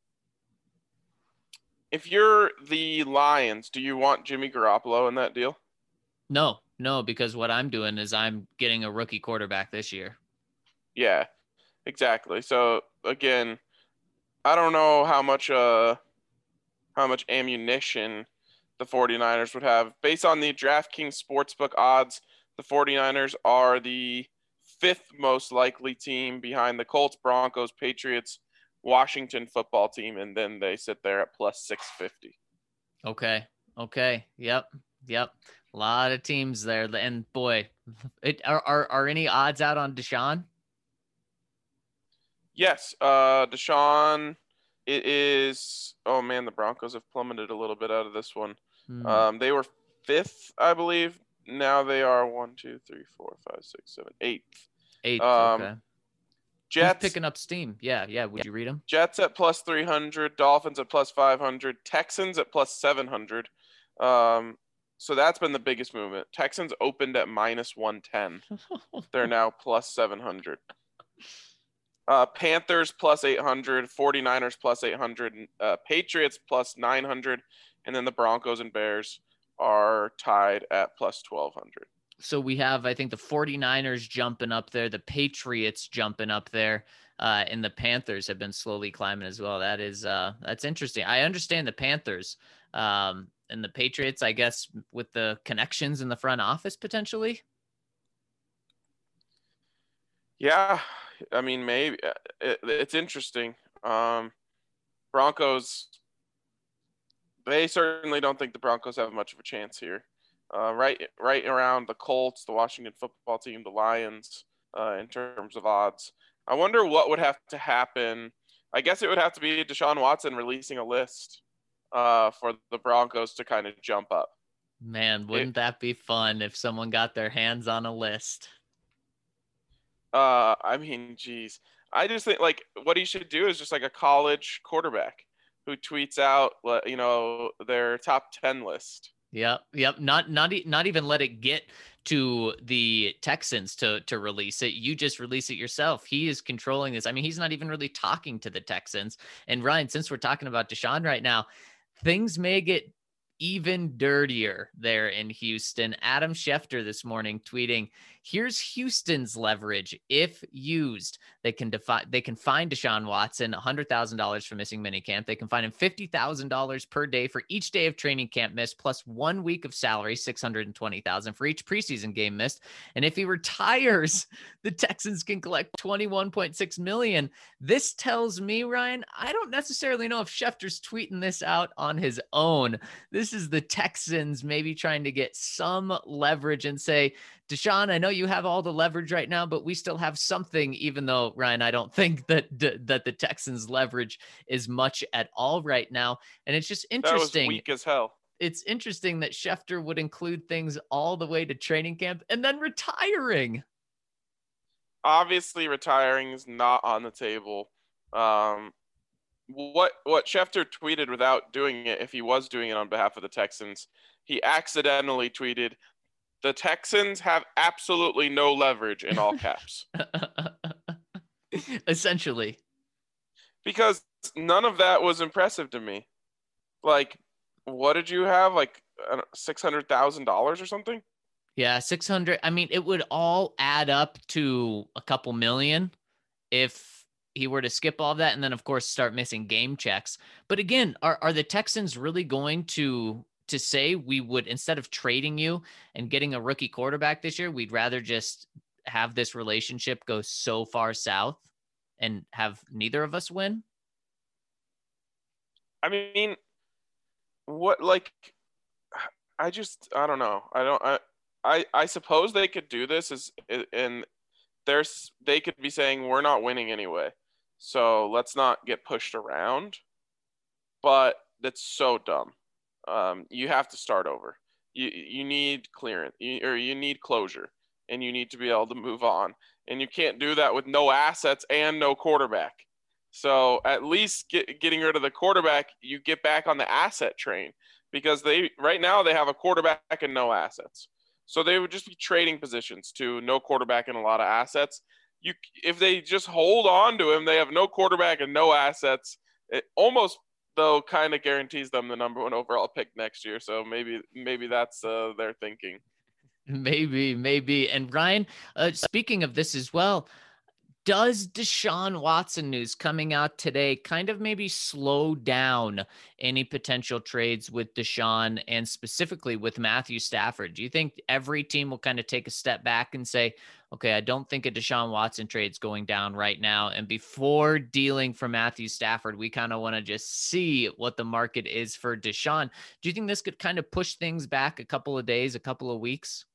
if you're the Lions, do you want Jimmy Garoppolo in that deal? No, no, because what I'm doing is I'm getting a rookie quarterback this year. Yeah, exactly. So again, I don't know how much uh how much ammunition the 49ers would have. Based on the DraftKings Sportsbook odds, the 49ers are the fifth most likely team behind the Colts, Broncos, Patriots, Washington football team, and then they sit there at plus six fifty. Okay. Okay. Yep. Yep. A lot of teams there. And boy, it are are, are any odds out on Deshaun? Yes, uh, Deshaun. It is. Oh man, the Broncos have plummeted a little bit out of this one. Hmm. Um, they were fifth, I believe. Now they are one, two, three, four, five, six, seven, eighth. Eighth. Um, Okay. Jets Who's picking up steam. Yeah. Yeah. Would you read them? Jets at plus three hundred, Dolphins at plus five hundred, Texans at plus seven hundred. Um, so that's been the biggest movement. Texans opened at minus one ten. They're now plus seven hundred. Uh, Panthers plus eight hundred, 49ers plus eight hundred, uh, Patriots plus nine hundred, and then the Broncos and Bears are tied at plus twelve hundred. So we have, I think, the 49ers jumping up there, the Patriots jumping up there, uh, and the Panthers have been slowly climbing as well. That is, uh, that's interesting. I understand the Panthers um, and the Patriots, I guess, with the connections in the front office potentially. Yeah, I mean, maybe it, it's interesting. Um, Broncos, they certainly don't think the Broncos have much of a chance here. Uh, right, right around the Colts, the Washington football team, the Lions, uh, in terms of odds. I wonder what would have to happen. I guess it would have to be Deshaun Watson releasing a list uh, for the Broncos to kind of jump up. Man, wouldn't it, that be fun if someone got their hands on a list? Uh, I mean, geez. I just think, like, what he should do is just like a college quarterback who tweets out, you know, their top ten list. Yep, yep. Not not not even let it get to the Texans to to release it. You just release it yourself. He is controlling this. I mean, he's not even really talking to the Texans. And Ryan, since we're talking about Deshaun right now, things may get even dirtier there in Houston. Adam Schefter this morning tweeting, here's Houston's leverage. If used, they can defy, they can fine Deshaun Watson one hundred thousand dollars for missing minicamp. They can fine him fifty thousand dollars per day for each day of training camp missed, plus one week of salary, six hundred twenty thousand dollars for each preseason game missed. And if he retires, the Texans can collect twenty-one point six million dollars. This tells me, Ryan, I don't necessarily know if Schefter's tweeting this out on his own. This is the Texans maybe trying to get some leverage and say, Deshaun, I know you have all the leverage right now, but we still have something, even though, Ryan, I don't think that that the Texans' leverage is much at all right now. And it's just interesting. That was weak as hell. It's interesting that Schefter would include things all the way to training camp and then retiring. Obviously, retiring is not on the table. Um, what what Schefter tweeted without doing it, if he was doing it on behalf of the Texans, he accidentally tweeted, the Texans have absolutely no leverage, in all caps. Essentially. Because none of that was impressive to me. Like, what did you have? Like six hundred thousand dollars or something? Yeah, six hundred. I mean, it would all add up to a couple million if he were to skip all of that and then, of course, start missing game checks. But again, are, are the Texans really going to to say we would, instead of trading you and getting a rookie quarterback this year, we'd rather just have this relationship go so far south and have neither of us win? I mean, what, like, I just, I don't know. I don't, I, I, I suppose they could do this is, and there's, they could be saying, we're not winning anyway, so let's not get pushed around. But that's so dumb. Um, you have to start over. You you need clearance, you, or you need closure, and you need to be able to move on. And you can't do that with no assets and no quarterback. So at least get, getting rid of the quarterback, you get back on the asset train, because they right now they have a quarterback and no assets. So they would just be trading positions to no quarterback and a lot of assets. You, if they just hold on to him, they have no quarterback and no assets. It almost, though, kind of guarantees them the number one overall pick next year. So maybe maybe that's uh, their thinking. Maybe, maybe. And Ryan, uh, speaking of this as well, does Deshaun Watson news coming out today kind of maybe slow down any potential trades with Deshaun and specifically with Matthew Stafford? Do you think every team will kind of take a step back and say, okay, I don't think a Deshaun Watson trade's going down right now, and before dealing for Matthew Stafford, we kind of want to just see what the market is for Deshaun? Do you think this could kind of push things back a couple of days, a couple of weeks?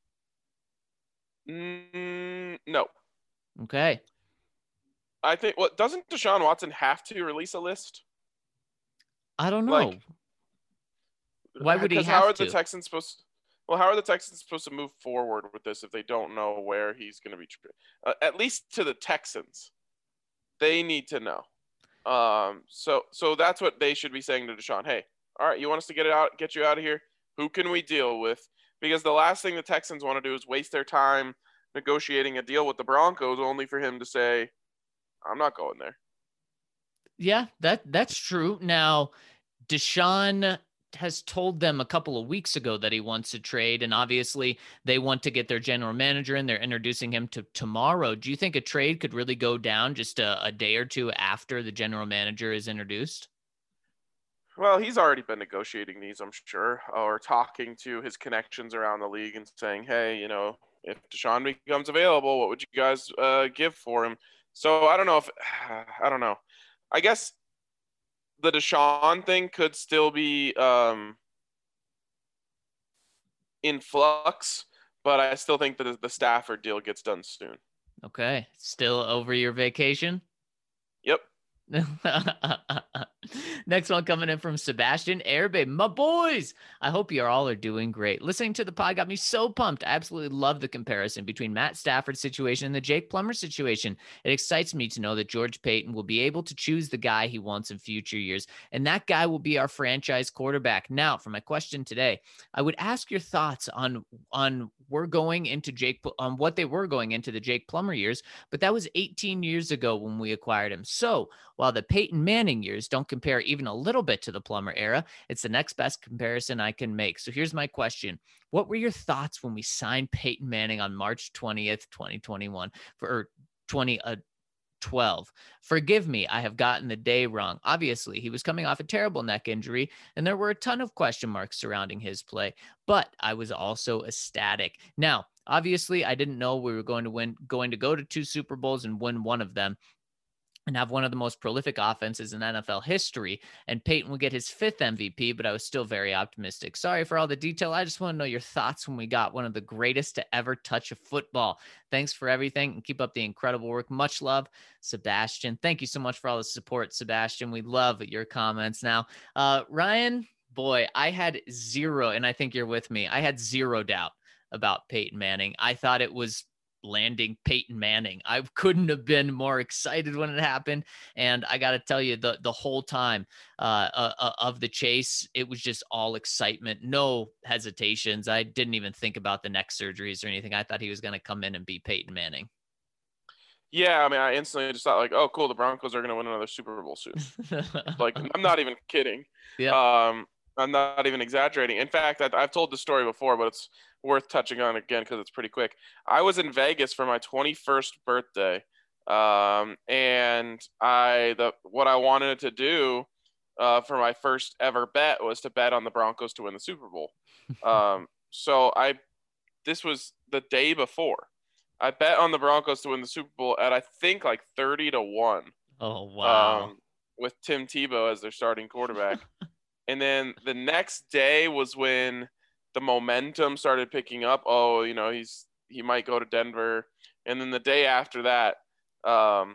Mm, no. Okay. I think, well, doesn't Deshaun Watson have to release a list? I don't know. Like, why would he have how are to? the Texans supposed to, well, how are the Texans supposed to move forward with this if they don't know where he's going to be? Uh, at least to the Texans, they need to know. Um, so, so that's what they should be saying to Deshaun. Hey, all right, you want us to get it out, get you out of here? Who can we deal with? Because the last thing the Texans want to do is waste their time negotiating a deal with the Broncos, only for him to say, I'm not going there. Yeah, that that's true. Now, Deshaun has told them a couple of weeks ago that he wants to trade, and obviously they want to get their general manager in. They're introducing him to tomorrow. Do you think a trade could really go down just a, a day or two after the general manager is introduced? Well, he's already been negotiating these, I'm sure, or talking to his connections around the league and saying, hey, you know, if Deshaun becomes available, what would you guys uh, give for him? So I don't know if I don't know. I guess the Deshaun thing could still be um, in flux, but I still think that the Stafford deal gets done soon. Okay. Still over your vacation? Yep. Next one coming in from Sebastian Airbabe. My boys, I hope you all are doing great. Listening to the pod got me so pumped. I absolutely love the comparison between Matt Stafford's situation and the Jake Plummer situation. It excites me to know that George Paton will be able to choose the guy he wants in future years, and that guy will be our franchise quarterback. Now, for my question today, I would ask your thoughts on on we're going into Jake on what they were going into the Jake Plummer years, but that was eighteen years ago when we acquired him. So while the Peyton Manning years don't compare even a little bit to the Plummer era, it's the next best comparison I can make. So here's my question. What were your thoughts when we signed Peyton Manning on March twentieth, twenty twenty-one for twenty twelve? Forgive me, I have gotten the day wrong. Obviously, he was coming off a terrible neck injury, and there were a ton of question marks surrounding his play, but I was also ecstatic. Now, obviously, I didn't know we were going to win, going to go to two Super Bowls and win one of them, and have one of the most prolific offenses in N F L history, and Peyton will get his fifth M V P, but I was still very optimistic. Sorry for all the detail. I just want to know your thoughts when we got one of the greatest to ever touch a football. Thanks for everything, and keep up the incredible work. Much love, Sebastian. Thank you so much for all the support, Sebastian. We love your comments. Now, uh, Ryan, boy, I had zero, and I think you're with me, I had zero doubt about Peyton Manning. I thought it was landing Peyton Manning. I couldn't have been more excited when it happened. And I got to tell you, the, the whole time uh, uh, of the chase, it was just all excitement, no hesitations. I didn't even think about the neck surgeries or anything. I thought he was going to come in and beat Peyton Manning. Yeah, I mean, I instantly just thought like, oh, cool, the Broncos are going to win another Super Bowl soon. Like, I'm not even kidding. Yeah. Um, I'm not even exaggerating. In fact, I've told the story before, but it's worth touching on again because it's pretty quick. I was in Vegas for my twenty-first birthday, um, and I the what I wanted to do uh, for my first ever bet was to bet on the Broncos to win the Super Bowl. Um, so I this was the day before. I bet on the Broncos to win the Super Bowl at I think like thirty to one. Oh wow! Um, with Tim Tebow as their starting quarterback. And then the next day was when the momentum started picking up. Oh, you know, he's he might go to Denver. And then the day after that, um,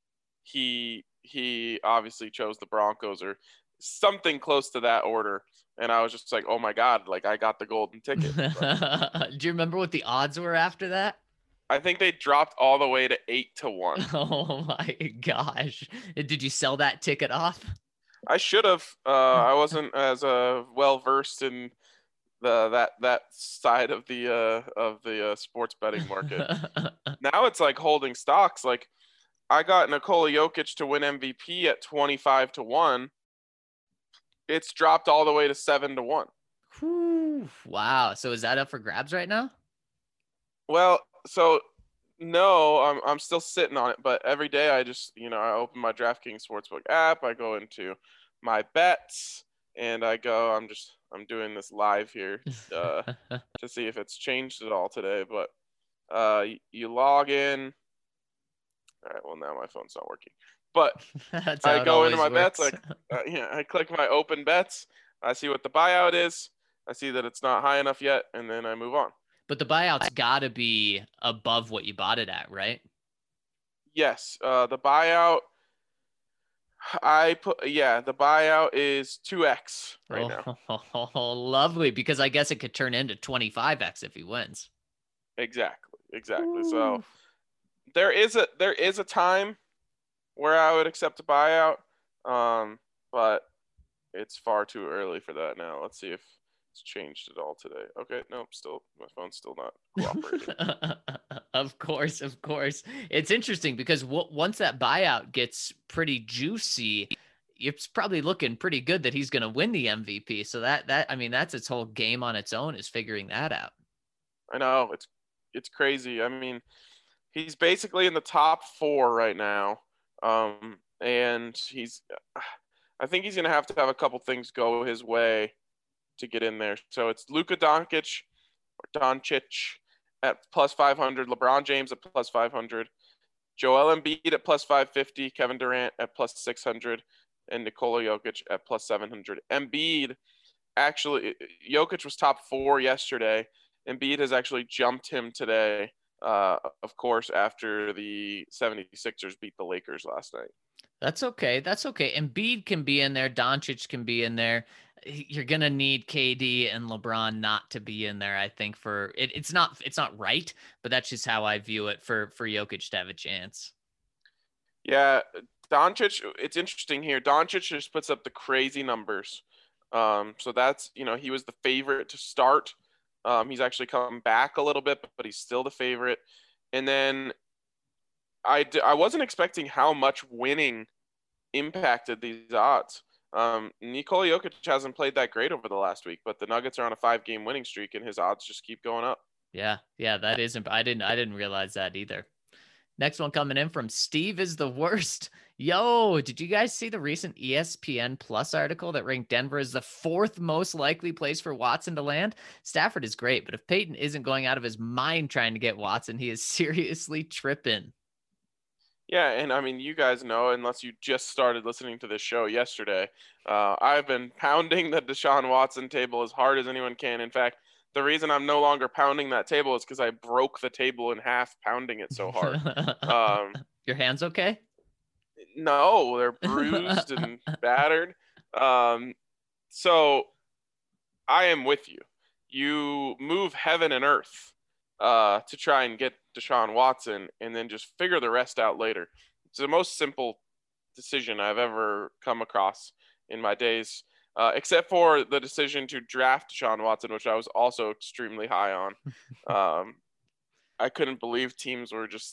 he he obviously chose the Broncos or something close to that order. and I was just like, oh my god, like I got the golden ticket. Do you remember what the odds were after that? I think they dropped all the way to eight to one. Oh my gosh! Did you sell that ticket off? I should have. Uh, I wasn't as uh, well versed in the that that side of the uh, of the uh, sports betting market. Now it's like holding stocks. Like I got Nikola Jokic to win M V P at twenty-five to one. It's dropped all the way to seven to one. Whew, wow. So is that up for grabs right now? Well, so no, I'm I'm still sitting on it, but every day I just, you know, I open my DraftKings Sportsbook app, I go into my bets, and I go, I'm just I'm doing this live here uh, to see if it's changed at all today, but uh, you, you log in. All right, well now my phone's not working. But I go into my works. bets, like uh, yeah, I click my open bets, I see what the buyout is, I see that it's not high enough yet, and then I move on. But the buyout's got to be above what you bought it at, right? Yes. Uh, the buyout, I put, yeah, the buyout is two X right oh, now. Oh, lovely. Because I guess it could turn into twenty-five X if he wins. Exactly. Exactly. Ooh. So there is a, there is a time where I would accept a buyout. Um, but it's far too early for that now. Let's see if it's changed at all today. Okay, nope, still my phone's still not cooperating. Of course, of course. It's interesting because w- once that buyout gets pretty juicy, it's probably looking pretty good that he's going to win the M V P. So that that I mean that's its whole game on its own, is figuring that out. I know, it's it's crazy. I mean, he's basically in the top four right now, um, and he's. I think he's going to have to have a couple things go his way to get in there. So it's Luka Doncic or Doncic at plus five hundred, LeBron James at plus five hundred, Joel Embiid at plus five fifty, Kevin Durant at plus six hundred, and Nikola Jokic at plus seven hundred. Embiid actually, Jokic was top four yesterday. Embiid has actually jumped him today, uh, of course, after the seventy-sixers beat the Lakers last night. That's okay. That's okay. Embiid can be in there. Doncic can be in there. You're going to need K D and LeBron not to be in there, I think, for it. It's not, it's not right, but that's just how I view it for, for Jokic to have a chance. Yeah. Doncic, it's interesting here. Doncic just puts up the crazy numbers. Um, so that's, you know, he was the favorite to start. Um, he's actually come back a little bit, but he's still the favorite. And then I, d- I wasn't expecting how much winning impacted these odds. Um, Nikola Jokic hasn't played that great over the last week, but the Nuggets are on a five-game winning streak, and his odds just keep going up. Yeah, yeah, that isn't. I didn't. I didn't realize that either. Next one coming in from Steve is the worst. Yo, did you guys see the recent E S P N Plus article that ranked Denver as the fourth most likely place for Watson to land? Stafford is great, but if Peyton isn't going out of his mind trying to get Watson, he is seriously tripping. Yeah, and I mean, you guys know, unless you just started listening to this show yesterday, uh, I've been pounding the Deshaun Watson table as hard as anyone can. In fact, the reason I'm no longer pounding that table is because I broke the table in half pounding it so hard. Um, Your hands okay? No, they're bruised and battered. Um, so I am with you. You move heaven and earth uh, to try and get Deshaun Watson, and then just figure the rest out later. It's the most simple decision I've ever come across in my days, uh, except for the decision to draft Deshaun Watson, which I was also extremely high on. Um, I couldn't believe teams were just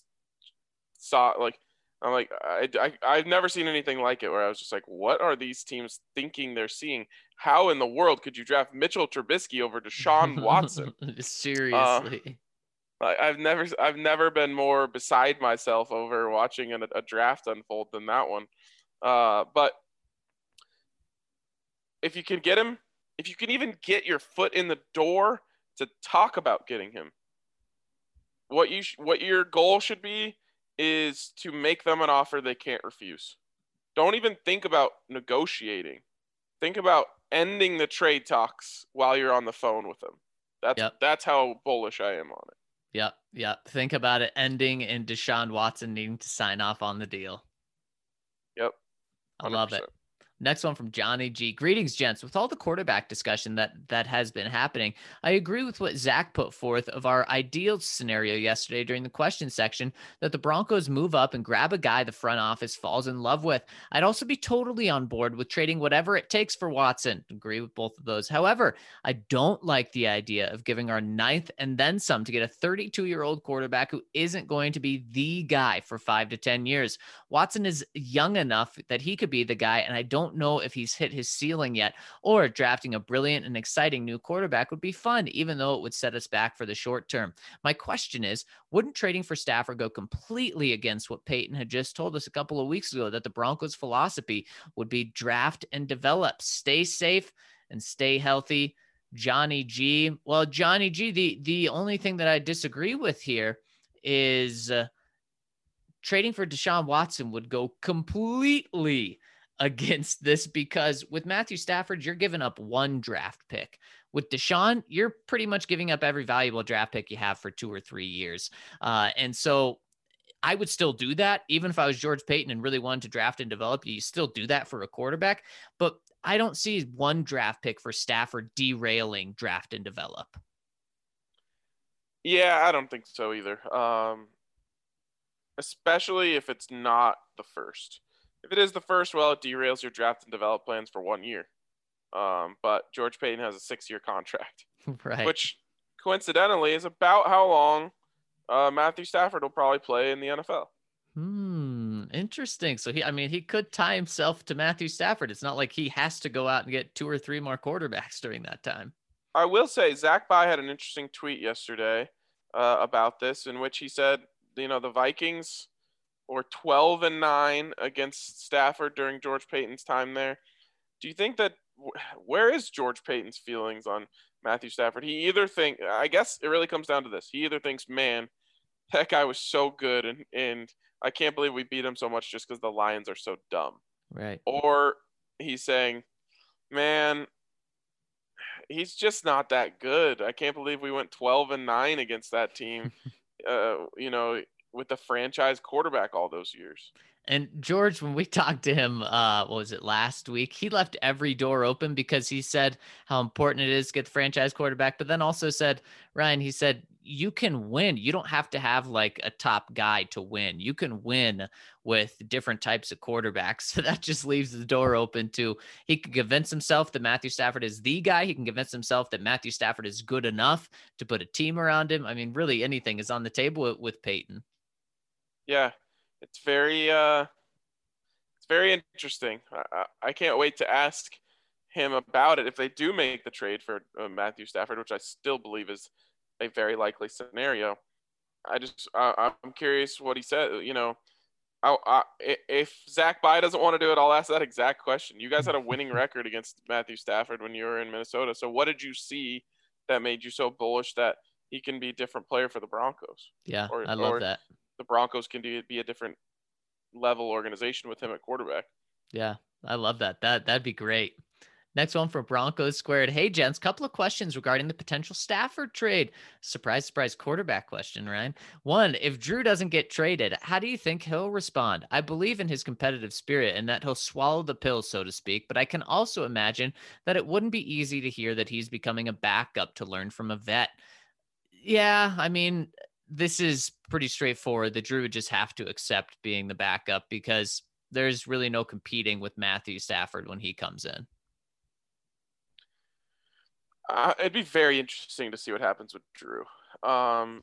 saw like I'm like I, I I've never seen anything like it, where I was just like, what are these teams thinking they're seeing? How in the world could you draft Mitchell Trubisky over Deshaun Watson? Seriously. Uh, I've never, I've never been more beside myself over watching a, a draft unfold than that one. Uh, but if you can get him, if you can even get your foot in the door to talk about getting him, what you, sh- what your goal should be is to make them an offer they can't refuse. Don't even think about negotiating. Think about ending the trade talks while you're on the phone with them. That's yep. That's how bullish I am on it. Yep, yep. Think about it ending in Deshaun Watson needing to sign off on the deal. Yep. one hundred percent. I love it. Next one from Johnny G. Greetings, gents. With all the quarterback discussion that that has been happening, I agree with what Zach put forth of our ideal scenario yesterday during the question section, that the Broncos move up and grab a guy the front office falls in love with. I'd also be totally on board with trading whatever it takes for Watson. Agree with both of those. However, I don't like the idea of giving our ninth and then some to get a thirty-two-year-old quarterback who isn't going to be the guy for five to ten years. Watson is young enough that he could be the guy, and I don't know if he's hit his ceiling yet, or drafting a brilliant and exciting new quarterback would be fun, even though it would set us back for the short term. My question is, wouldn't trading for Stafford go completely against what Peyton had just told us a couple of weeks ago, that the Broncos' philosophy would be draft and develop, stay safe and stay healthy? Johnny G. Well, Johnny G, the, the only thing that I disagree with here is uh, trading for Deshaun Watson would go completely against this, because with Matthew Stafford, you're giving up one draft pick. With Deshaun, you're pretty much giving up every valuable draft pick you have for two or three years. Uh, and so I would still do that. Even if I was George Payton and really wanted to draft and develop, you still do that for a quarterback. But I don't see one draft pick for Stafford derailing draft and develop. Yeah, I don't think so either. Um, especially if it's not the first. If it is the first, well, it derails your draft and develop plans for one year. Um, but George Payton has a six-year contract, right? Which coincidentally is about how long uh, Matthew Stafford will probably play in the N F L. Hmm, interesting. So he, I mean, he could tie himself to Matthew Stafford. It's not like he has to go out and get two or three more quarterbacks during that time. I will say Zach Bye had an interesting tweet yesterday uh, about this, in which he said, you know, the Vikings were twelve and nine against Stafford during George Payton's time there. Do you think that, where is George Payton's feelings on Matthew Stafford? He either think, I guess it really comes down to this. He either thinks, man, that guy was so good, and, and I can't believe we beat him so much just because the Lions are so dumb. Right. Or he's saying, man, he's just not that good. I can't believe we went twelve and nine against that team, uh, you know, with the franchise quarterback all those years. And George, when we talked to him, uh, what was it, last week, he left every door open because he said how important it is to get the franchise quarterback, but then also said, Ryan, he said, you can win. You don't have to have like a top guy to win. You can win with different types of quarterbacks. So that just leaves the door open to, he can convince himself that Matthew Stafford is the guy. He can convince himself that Matthew Stafford is good enough to put a team around him. I mean, really anything is on the table with, with Peyton. Yeah. It's very, uh, it's very interesting. I, I can't wait to ask him about it if they do make the trade for uh, Matthew Stafford, which I still believe is a very likely scenario. I just, uh, I'm curious what he said. You know, I, I, if Zach Bye doesn't want to do it, I'll ask that exact question. You guys had a winning record against Matthew Stafford when you were in Minnesota. So what did you see that made you so bullish that he can be a different player for the Broncos? Yeah, or, I love or that. The Broncos can do, be a different level organization with him at quarterback. Yeah, I love that. That, that'd be great. Next one from Broncos Squared. Hey, gents, couple of questions regarding the potential Stafford trade. Surprise, surprise quarterback question, Ryan. One, if Drew doesn't get traded, how do you think he'll respond? I believe in his competitive spirit and that he'll swallow the pill, so to speak, but I can also imagine that it wouldn't be easy to hear that he's becoming a backup to learn from a vet. Yeah, I mean, this is pretty straightforward. The Drew would just have to accept being the backup because there's really no competing with Matthew Stafford when he comes in. Uh, it'd be very interesting to see what happens with Drew. Um,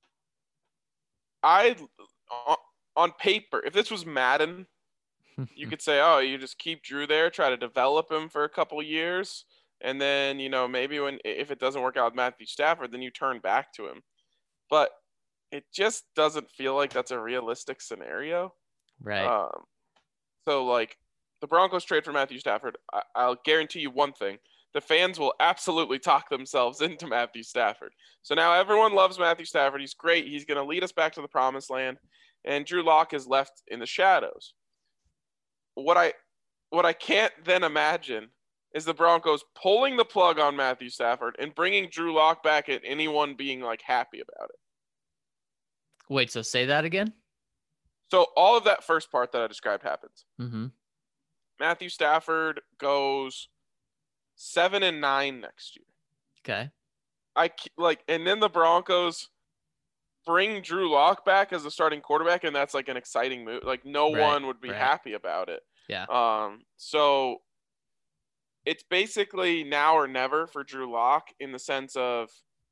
I, on paper, if this was Madden, you could say, oh, you just keep Drew there, try to develop him for a couple years, and then, you know, maybe when if it doesn't work out with Matthew Stafford, then you turn back to him. But it just doesn't feel like that's a realistic scenario. Right. Um, so, like, the Broncos trade for Matthew Stafford, I- I'll guarantee you one thing. The fans will absolutely talk themselves into Matthew Stafford. So now everyone loves Matthew Stafford. He's great. He's going to lead us back to the promised land. And Drew Lock is left in the shadows. What I what I can't then imagine is the Broncos pulling the plug on Matthew Stafford and bringing Drew Lock back and anyone being, like, happy about it. Wait, so say that again? So all of that first part that I described happens. Mm-hmm. Matthew Stafford goes seven and nine next year. Okay. I like, and then the Broncos bring Drew Lock back as a starting quarterback, and that's like an exciting move. Like no Right, one would be right. happy about it. Yeah. Um. So it's basically now or never for Drew Lock in the sense of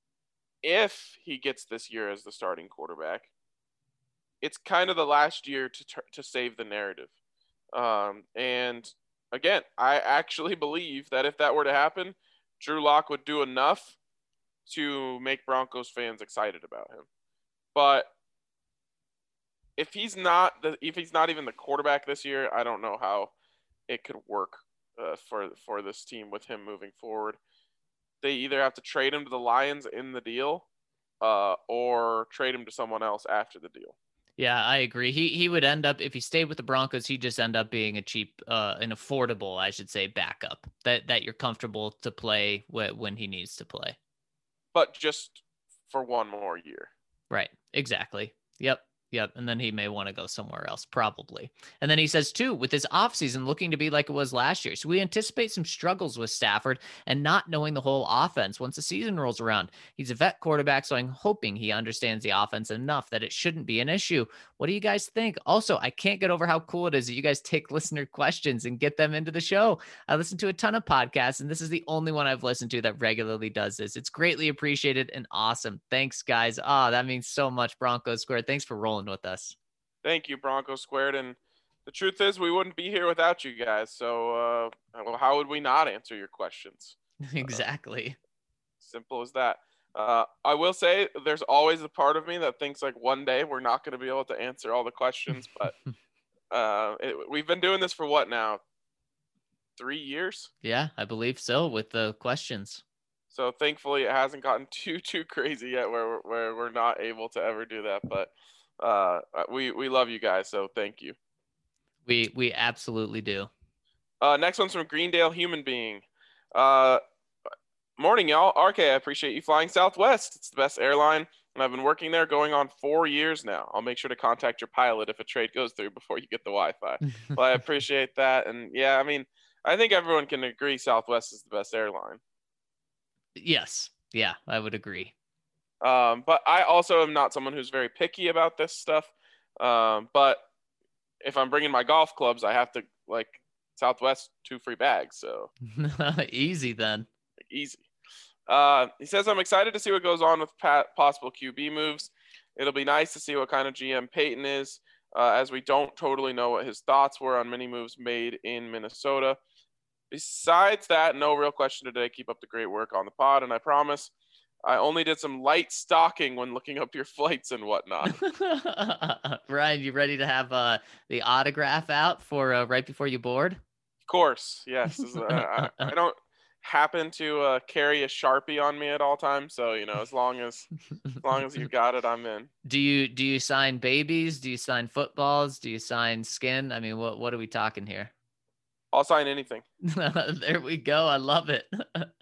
if he gets this year as the starting quarterback, it's kind of the last year to to save the narrative. Um. And again, I actually believe that if that were to happen, Drew Lock would do enough to make Broncos fans excited about him. But if he's not the if he's not even the quarterback this year, I don't know how it could work uh, for for this team with him moving forward. They either have to trade him to the Lions in the deal, uh, or trade him to someone else after the deal. Yeah, I agree. He he would end up, if he stayed with the Broncos, he'd just end up being a cheap, uh, an affordable, I should say, backup that that you're comfortable to play wh- when he needs to play. But just for one more year. Right. Exactly. Yep. Yep. And then he may want to go somewhere else, probably. And then he says, too, with his offseason looking to be like it was last year. So we anticipate some struggles with Stafford and not knowing the whole offense once the season rolls around. He's a vet quarterback, so I'm hoping he understands the offense enough that it shouldn't be an issue. What do you guys think? Also, I can't get over how cool it is that you guys take listener questions and get them into the show. I listen to a ton of podcasts, and this is the only one I've listened to that regularly does this. It's greatly appreciated and awesome. Thanks, guys. Ah, oh, that means so much, Broncos Squared. Thanks for rolling with us. Thank you, Broncos Squared. And the truth is, we wouldn't be here without you guys. So, uh, well, how would we not answer your questions? Exactly. Uh, simple as that. Uh, I will say there's always a part of me that thinks like one day we're not going to be able to answer all the questions, but uh, it, we've been doing this for what now? Three years? Yeah, I believe so with the questions. So thankfully it hasn't gotten too, too crazy yet where, where we're not able to ever do that. But uh, we, we love you guys. So thank you. We, we absolutely do. Uh, next one's from Greendale Human Being. Uh, morning, y'all. R K, I appreciate you flying Southwest. It's the best airline, and I've been working there going on four years now. I'll make sure to contact your pilot if a trade goes through before you get the Wi-Fi. Well, I appreciate that. And yeah, I mean, I think everyone can agree Southwest is the best airline. Yes. Yeah, I would agree. Um, but I also am not someone who's very picky about this stuff. Um, but if I'm bringing my golf clubs, I have to like Southwest two free bags. So easy then. Easy. Uh, he says, I'm excited to see what goes on with pat- possible Q B moves. It'll be nice to see what kind of G M Peyton is, uh, as we don't totally know what his thoughts were on many moves made in Minnesota. Besides that, no real question today. Keep up the great work on the pod, and I promise I only did some light stalking when looking up your flights and whatnot. Ryan, you ready to have uh, the autograph out for uh, right before you board? Of course, yes. uh, I, I don't happen to uh, carry a Sharpie on me at all times, so you know, as long as as long as you got it, I'm in. Do you do you sign babies? Do you sign footballs? Do you sign skin? I mean, what what are we talking here? I'll sign anything. There we go. I love it.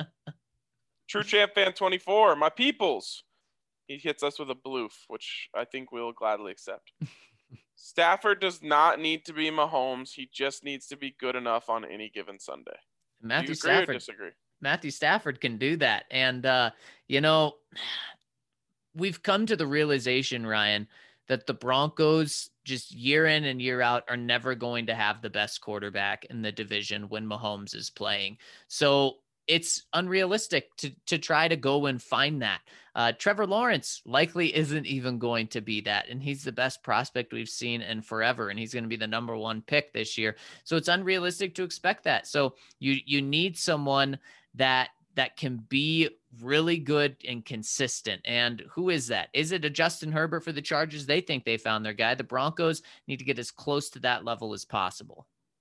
True Champ Fan twenty-four, my peoples. He hits us with a bloof, which I think we'll gladly accept. Stafford does not need to be Mahomes. He just needs to be good enough on any given Sunday. Matthew Do you agree Stafford, or disagree? Matthew Stafford can do that. And, uh, you know, we've come to the realization, Ryan, that the Broncos just year in and year out are never going to have the best quarterback in the division when Mahomes is playing. So it's unrealistic to to try to go and find that. Uh, Trevor Lawrence likely isn't even going to be that, and he's the best prospect we've seen in forever, and he's going to be the number one pick this year. So it's unrealistic to expect that. So you you need someone that that can be really good and consistent. And who is that? Is it a Justin Herbert for the Chargers? They think they found their guy. The Broncos need to get as close to that level as possible.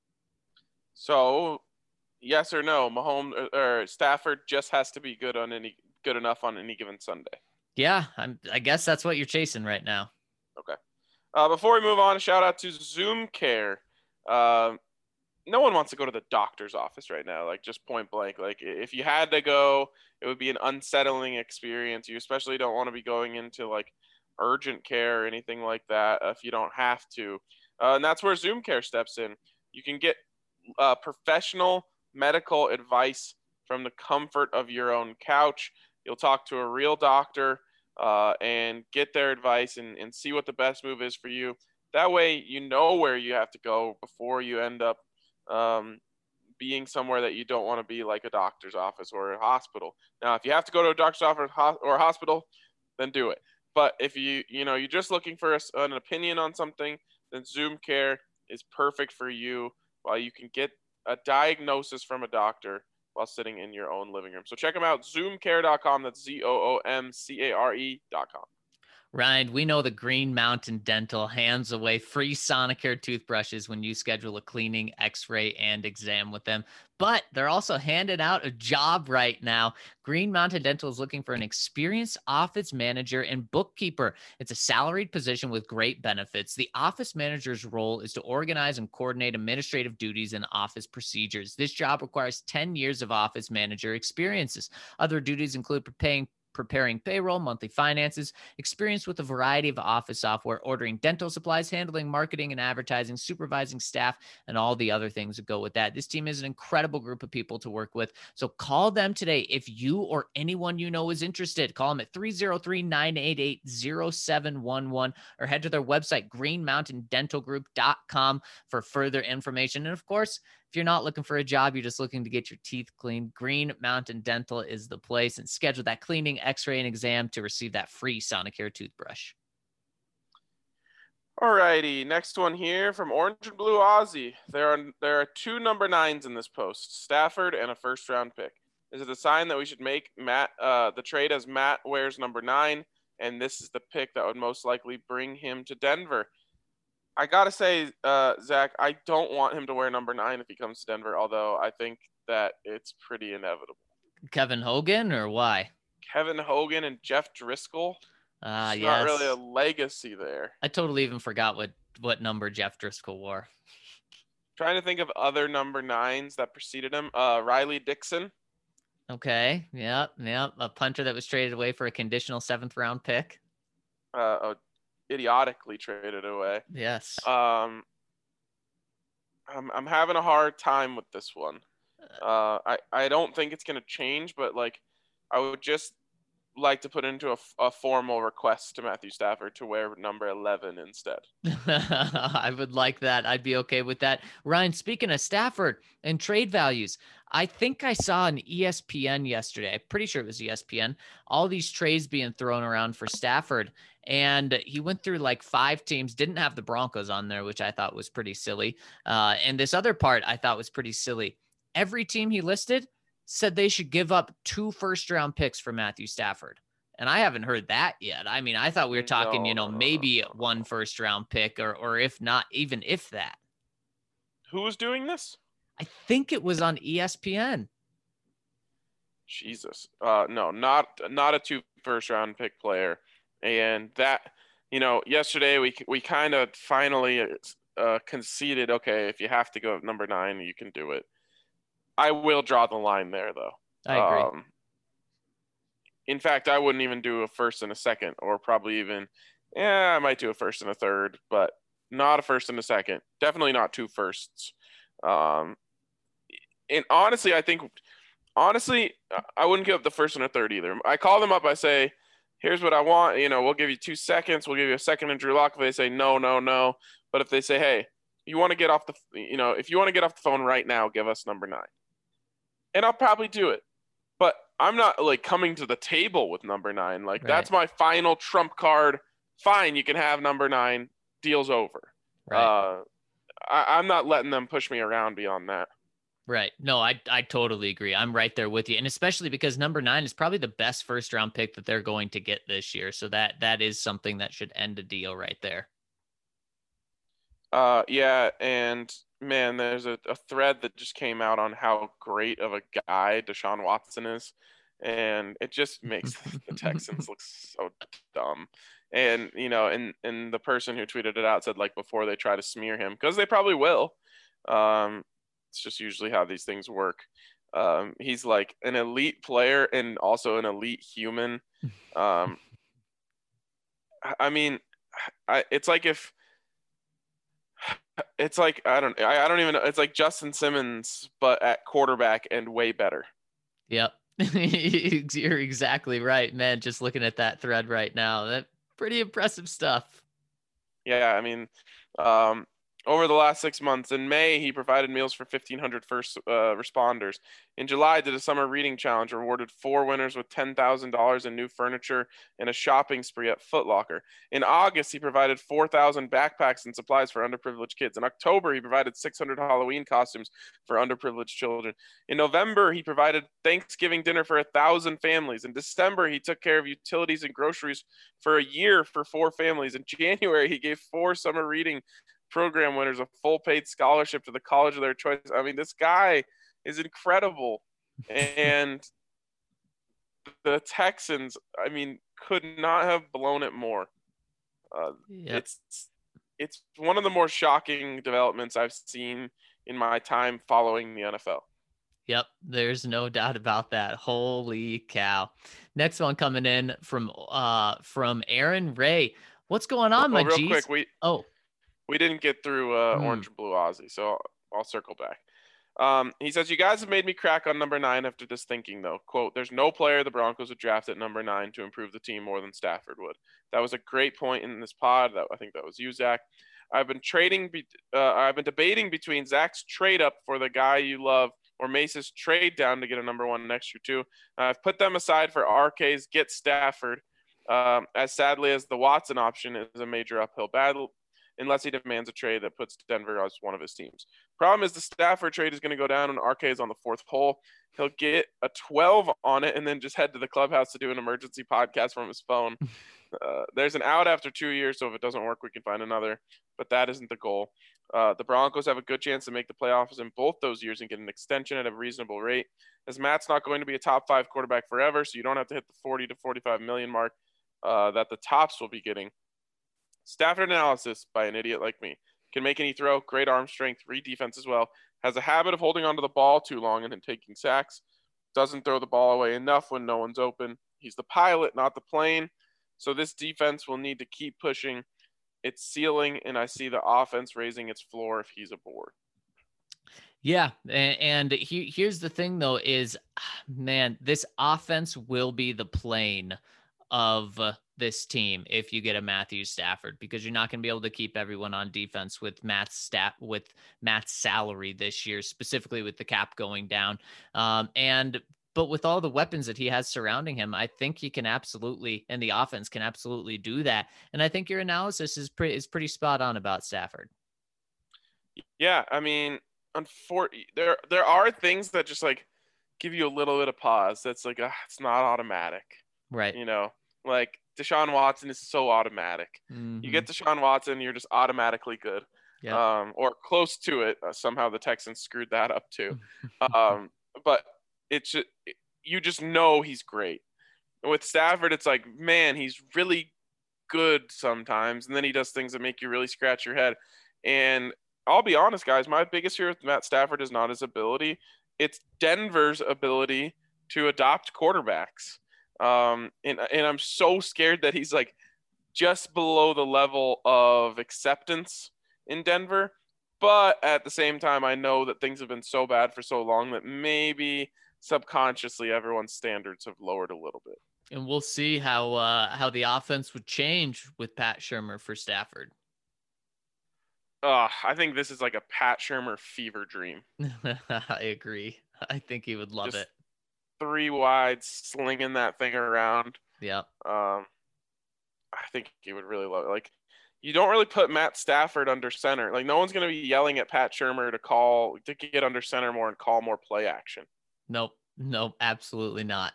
So, yes or no, Mahomes or, or Stafford just has to be good on any good enough on any given Sunday. Yeah, I'm, I guess that's what you're chasing right now. Okay. Uh, before we move on, a shout out to Zoom Care. Uh, no one wants to go to the doctor's office right now, like just point blank. Like if you had to go, it would be an unsettling experience. You especially don't want to be going into like urgent care or anything like that if you don't have to. Uh, and that's where Zoom Care steps in. You can get uh, professional medical advice from the comfort of your own couch. You'll talk to a real doctor uh, and get their advice and, and see what the best move is for you. That way, you know where you have to go before you end up um, being somewhere that you don't want to be, like a doctor's office or a hospital. Now, if you have to go to a doctor's office or a hospital, then do it. But if you, you know, you're just looking for a, an opinion on something, then Zoom Care is perfect for you while you can get a diagnosis from a doctor while sitting in your own living room. So check them out, zoom care dot com. That's Z O O M C A R E dot com. Ryan, we know the Green Mountain Dental hands away free Sonicare toothbrushes when you schedule a cleaning, x-ray, and exam with them. But they're also handing out a job right now. Green Mountain Dental is looking for an experienced office manager and bookkeeper. It's a salaried position with great benefits. The office manager's role is to organize and coordinate administrative duties and office procedures. This job requires ten years of office manager experiences. Other duties include preparing preparing payroll, monthly finances, experience with a variety of office software, ordering dental supplies, handling marketing and advertising, supervising staff, and all the other things that go with that. This team is an incredible group of people to work with. So call them today if you or anyone you know is interested. Call them at three oh three, nine eight eight, oh seven one one or head to their website, green mountain dental group dot com, for further information. And of course, if you're not looking for a job, you're just looking to get your teeth cleaned, Green Mountain Dental is the place. And schedule that cleaning, x-ray, and exam to receive that free Sonicare toothbrush. All righty, next one here from Orange and Blue Aussie. There are there are two number nines in this post, Stafford and a first round pick. Is it a sign that we should make Matt uh, the trade as Matt wears number nine, and this is the pick that would most likely bring him to Denver? I gotta say, uh, Zach, I don't want him to wear number nine if he comes to Denver, although I think that it's pretty inevitable. Kevin Hogan, or why? Kevin Hogan and Jeff Driscoll. Ah, uh, yes. Not really a legacy there. I totally even forgot what, what number Jeff Driscoll wore. Trying to think of other number nines that preceded him. Uh, Riley Dixon. Okay, yeah, yeah. A punter that was traded away for a conditional seventh round pick. Uh, oh, idiotically traded away. Yes. Um, I'm I'm having a hard time with this one. Uh, I I don't think it's gonna change, but like, I would just like to put into a, a formal request to Matthew Stafford to wear number eleven instead. I would like that. I'd be okay with that. Ryan, speaking of Stafford and trade values, I think I saw on E S P N yesterday. I'm pretty sure it was E S P N. All these trades being thrown around for Stafford. And he went through like five teams, didn't have the Broncos on there, which I thought was pretty silly. Uh, and this other part I thought was pretty silly. Every team he listed said they should give up two first round picks for Matthew Stafford. And I haven't heard that yet. I mean, I thought we were talking, no, you know, no, no, maybe no, no. one first round pick or, or if not, even if that. Who was doing this? I think it was on E S P N. Jesus. Uh, no, not, not a two first round pick player. And that, you know, yesterday we, we kind of finally uh, conceded, okay, if you have to go at number nine, you can do it. I will draw the line there, though. I agree. Um, in fact, I wouldn't even do a first and a second, or probably even, yeah, I might do a first and a third, but not a first and a second. Definitely not two firsts. Um, and honestly, I think, honestly, I wouldn't give up the first and a third either. I call them up. I say, here's what I want. You know, we'll give you two seconds. We'll give you a second in Drew Lock. If they say no, no, no. But if they say, hey, you want to get off the, you know, if you want to get off the phone right now, give us number nine. And I'll probably do it. But I'm not like coming to the table with number nine. Like Right. That's my final trump card. Fine, you can have number nine. Deal's over. Right. Uh, I, I'm not letting them push me around beyond that. Right. No, I I totally agree. I'm right there with you. And especially because number nine is probably the best first round pick that they're going to get this year. So that that is something that should end a deal right there. Uh, yeah, and man, there's a, a thread that just came out on how great of a guy Deshaun Watson is, and it just makes the Texans look so dumb. And you know, and and the person who tweeted it out said like before they try to smear him, because they probably will. Um, it's just usually how these things work. Um, he's like an elite player and also an elite human. Um, I mean, I, it's like if it's like I don't I, I don't even know. It's like Justin Simmons, but at quarterback and way better. Yep. You're exactly right, man. Just looking at that thread right now, that pretty impressive stuff. Yeah, I mean, um, over the last six months, in May, he provided meals for fifteen hundred first uh, responders. In July, did a summer reading challenge, rewarded four winners with ten thousand dollars in new furniture and a shopping spree at Foot Locker. In August, he provided four thousand backpacks and supplies for underprivileged kids. In October, he provided six hundred Halloween costumes for underprivileged children. In November, he provided Thanksgiving dinner for one thousand families. In December, he took care of utilities and groceries for a year for four families. In January, he gave four summer reading program winners a full paid scholarship to the college of their choice. I mean, this guy is incredible. And the Texans, I mean, could not have blown it more. Uh, yep. It's it's one of the more shocking developments I've seen in my time following the N F L. Yep, there's no doubt about that. Holy cow. Next one coming in from uh from Aaron Ray. What's going on, my oh, real G's? quick, we oh we didn't get through uh, mm. Orange and Blue Aussie, so I'll, I'll circle back. Um, he says, you guys have made me crack on number nine after this thinking, though. Quote, there's no player the Broncos would draft at number nine to improve the team more than Stafford would. That was a great point in this pod. That I think that was you, Zach. I've been trading. Be, uh, I've been debating between Zach's trade up for the guy you love or Mace's trade down to get a number one next year, too. I've put them aside for R K's get Stafford, um, as sadly as the Watson option is a major uphill battle, unless he demands a trade that puts Denver as one of his teams. Problem is the Stafford trade is going to go down when R K is on the fourth hole. He'll get a twelve on it and then just head to the clubhouse to do an emergency podcast from his phone. Uh, there's an out after two years, so if it doesn't work, we can find another. But that isn't the goal. Uh, the Broncos have a good chance to make the playoffs in both those years and get an extension at a reasonable rate. As Matt's not going to be a top five quarterback forever, so you don't have to hit the forty to forty-five million mark uh, that the tops will be getting. Stafford analysis by an idiot like me. Can make any throw, great arm strength, read defense as well. Has a habit of holding onto the ball too long and then taking sacks. Doesn't throw the ball away enough when no one's open. He's the pilot, not the plane. So this defense will need to keep pushing its ceiling, and I see the offense raising its floor if he's aboard. Yeah, and, and he, here's the thing, though, is, man, this offense will be the plane of this team if you get a Matthew Stafford, because you're not going to be able to keep everyone on defense with Matt's stat with Matt's salary this year, specifically with the cap going down. Um, and but with all the weapons that he has surrounding him, I think he can absolutely, and the offense can absolutely do that. And I think your analysis is pretty is pretty spot on about Stafford. Yeah, I mean, unfortunately, there there are things that just like give you a little bit of pause. That's like uh, it's not automatic, right? You know, like Deshaun Watson is so automatic. Mm-hmm. You get Deshaun Watson, you're just automatically good, yeah. um, or close to it. Uh, somehow the Texans screwed that up too. um, but it's just, you just know he's great. With Stafford, it's like, man, he's really good sometimes, and then he does things that make you really scratch your head. And I'll be honest, guys, my biggest fear with Matt Stafford is not his ability. It's Denver's ability to adopt quarterbacks. Um, and, and I'm so scared that he's like just below the level of acceptance in Denver. But at the same time, I know that things have been so bad for so long that maybe subconsciously everyone's standards have lowered a little bit. And we'll see how uh, how the offense would change with Pat Shurmur for Stafford. Uh, I think this is like a Pat Shurmur fever dream. I agree. I think he would love Just it. Three wide, slinging that thing around. Yeah. Um, I think he would really love it. Like, you don't really put Matt Stafford under center. Like, no one's going to be yelling at Pat Shurmur to call to get under center more and call more play action. Nope. Nope. Absolutely not.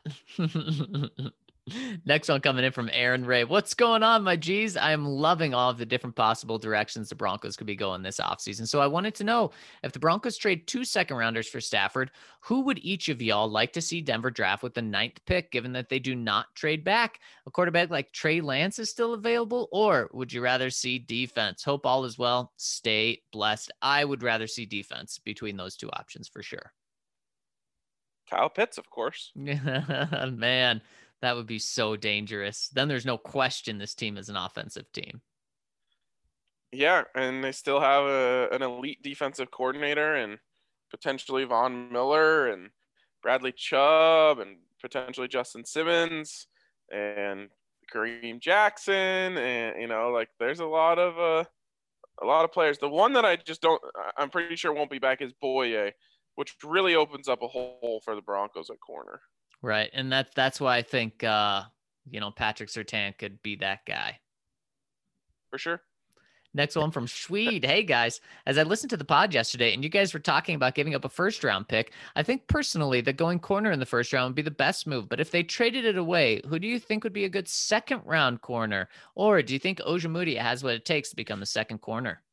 Next one coming in from Aaron Ray. What's going on, my G's? I am loving all of the different possible directions the Broncos could be going this offseason. So I wanted to know, if the Broncos trade two second rounders for Stafford, who would each of y'all like to see Denver draft with the ninth pick, given that they do not trade back? A quarterback like Trey Lance is still available, or would you rather see defense? Hope all is well. Stay blessed. I would rather see defense between those two options for sure. Kyle Pitts, of course. Man, that would be so dangerous. Then there's no question this team is an offensive team. Yeah, and they still have a, an elite defensive coordinator and potentially Von Miller and Bradley Chubb and potentially Justin Simmons and Kareem Jackson, and you know, like there's a lot of uh, a lot of players. The one that I just don't, I'm pretty sure won't be back is Boye, which really opens up a hole for the Broncos at corner. Right, and that's that's why I think uh, you know, Patrick Surtain could be that guy for sure. Next one from Schweed. Hey guys, as I listened to the pod yesterday and you guys were talking about giving up a first round pick, I think personally that going corner in the first round would be the best move. But if they traded it away, who do you think would be a good second round corner? Or do you think Ojemudia has what it takes to become the second corner?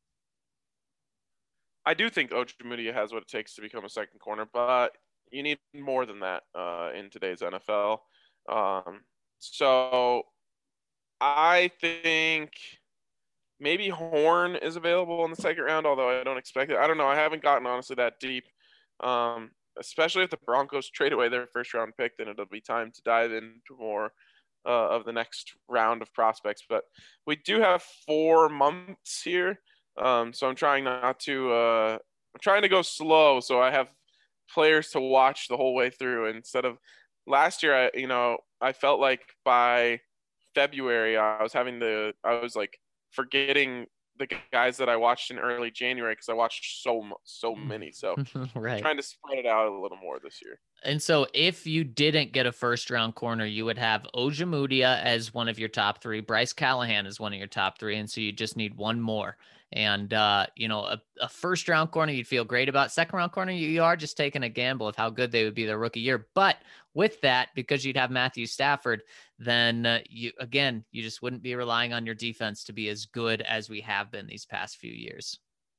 I do think Ojemudia has what it takes to become a second corner, but you need more than that uh, in today's N F L. Um, so I think maybe Horn is available in the second round, although I don't expect it. I don't know. I haven't gotten honestly that deep. Um, especially if the Broncos trade away their first round pick, then it'll be time to dive into more uh, of the next round of prospects. But we do have four months here. Um, so I'm trying not to, uh, I'm trying to go slow. So I have players to watch the whole way through instead of last year. I, you know, I felt like by February, I was having the, I was like forgetting the guys that I watched in early January because I watched so so many. So right. trying to spread it out a little more this year. And so if you didn't get a first round corner, you would have Ojemudia as one of your top three, Bryce Callahan as one of your top three. And so you just need one more. And, uh, you know, a, a first round corner, you'd feel great about. Second round corner, you, you are just taking a gamble of how good they would be their rookie year. But with that, because you'd have Matthew Stafford, then uh, you, again, you just wouldn't be relying on your defense to be as good as we have been these past few years.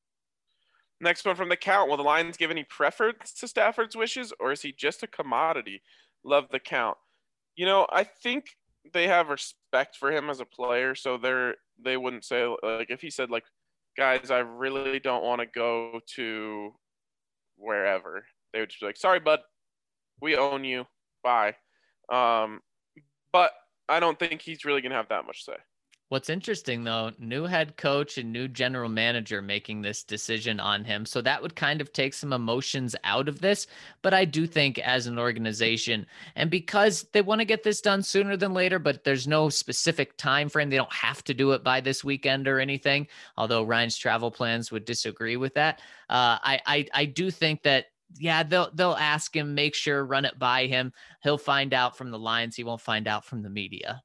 Next one from the count. Will the Lions give any preference to Stafford's wishes, or is he just a commodity? Love the count. You know, I think they have respect for him as a player, so they're they wouldn't say, like, if he said, like, guys, I really don't want to go to wherever, they would just be like, sorry, bud, we own you. Bye. Um, but I don't think he's really going to have that much say. What's interesting, though, new head coach and new general manager making this decision on him. So that would kind of take some emotions out of this. But I do think as an organization, and because they want to get this done sooner than later, but there's no specific time frame, they don't have to do it by this weekend or anything, although Ryan's travel plans would disagree with that. Uh, I, I, I do think that yeah, they'll they'll ask him, make sure, run it by him. He'll find out from the Lions. He won't find out from the media.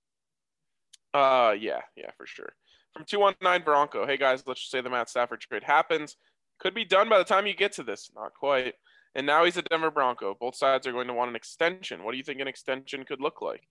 Uh, yeah, yeah, for sure. From two one nine Bronco. Hey, guys, let's just say the Matt Stafford trade happens. Could be done by the time you get to this. Not quite. And now he's a Denver Bronco. Both sides are going to want an extension. What do you think an extension could look like?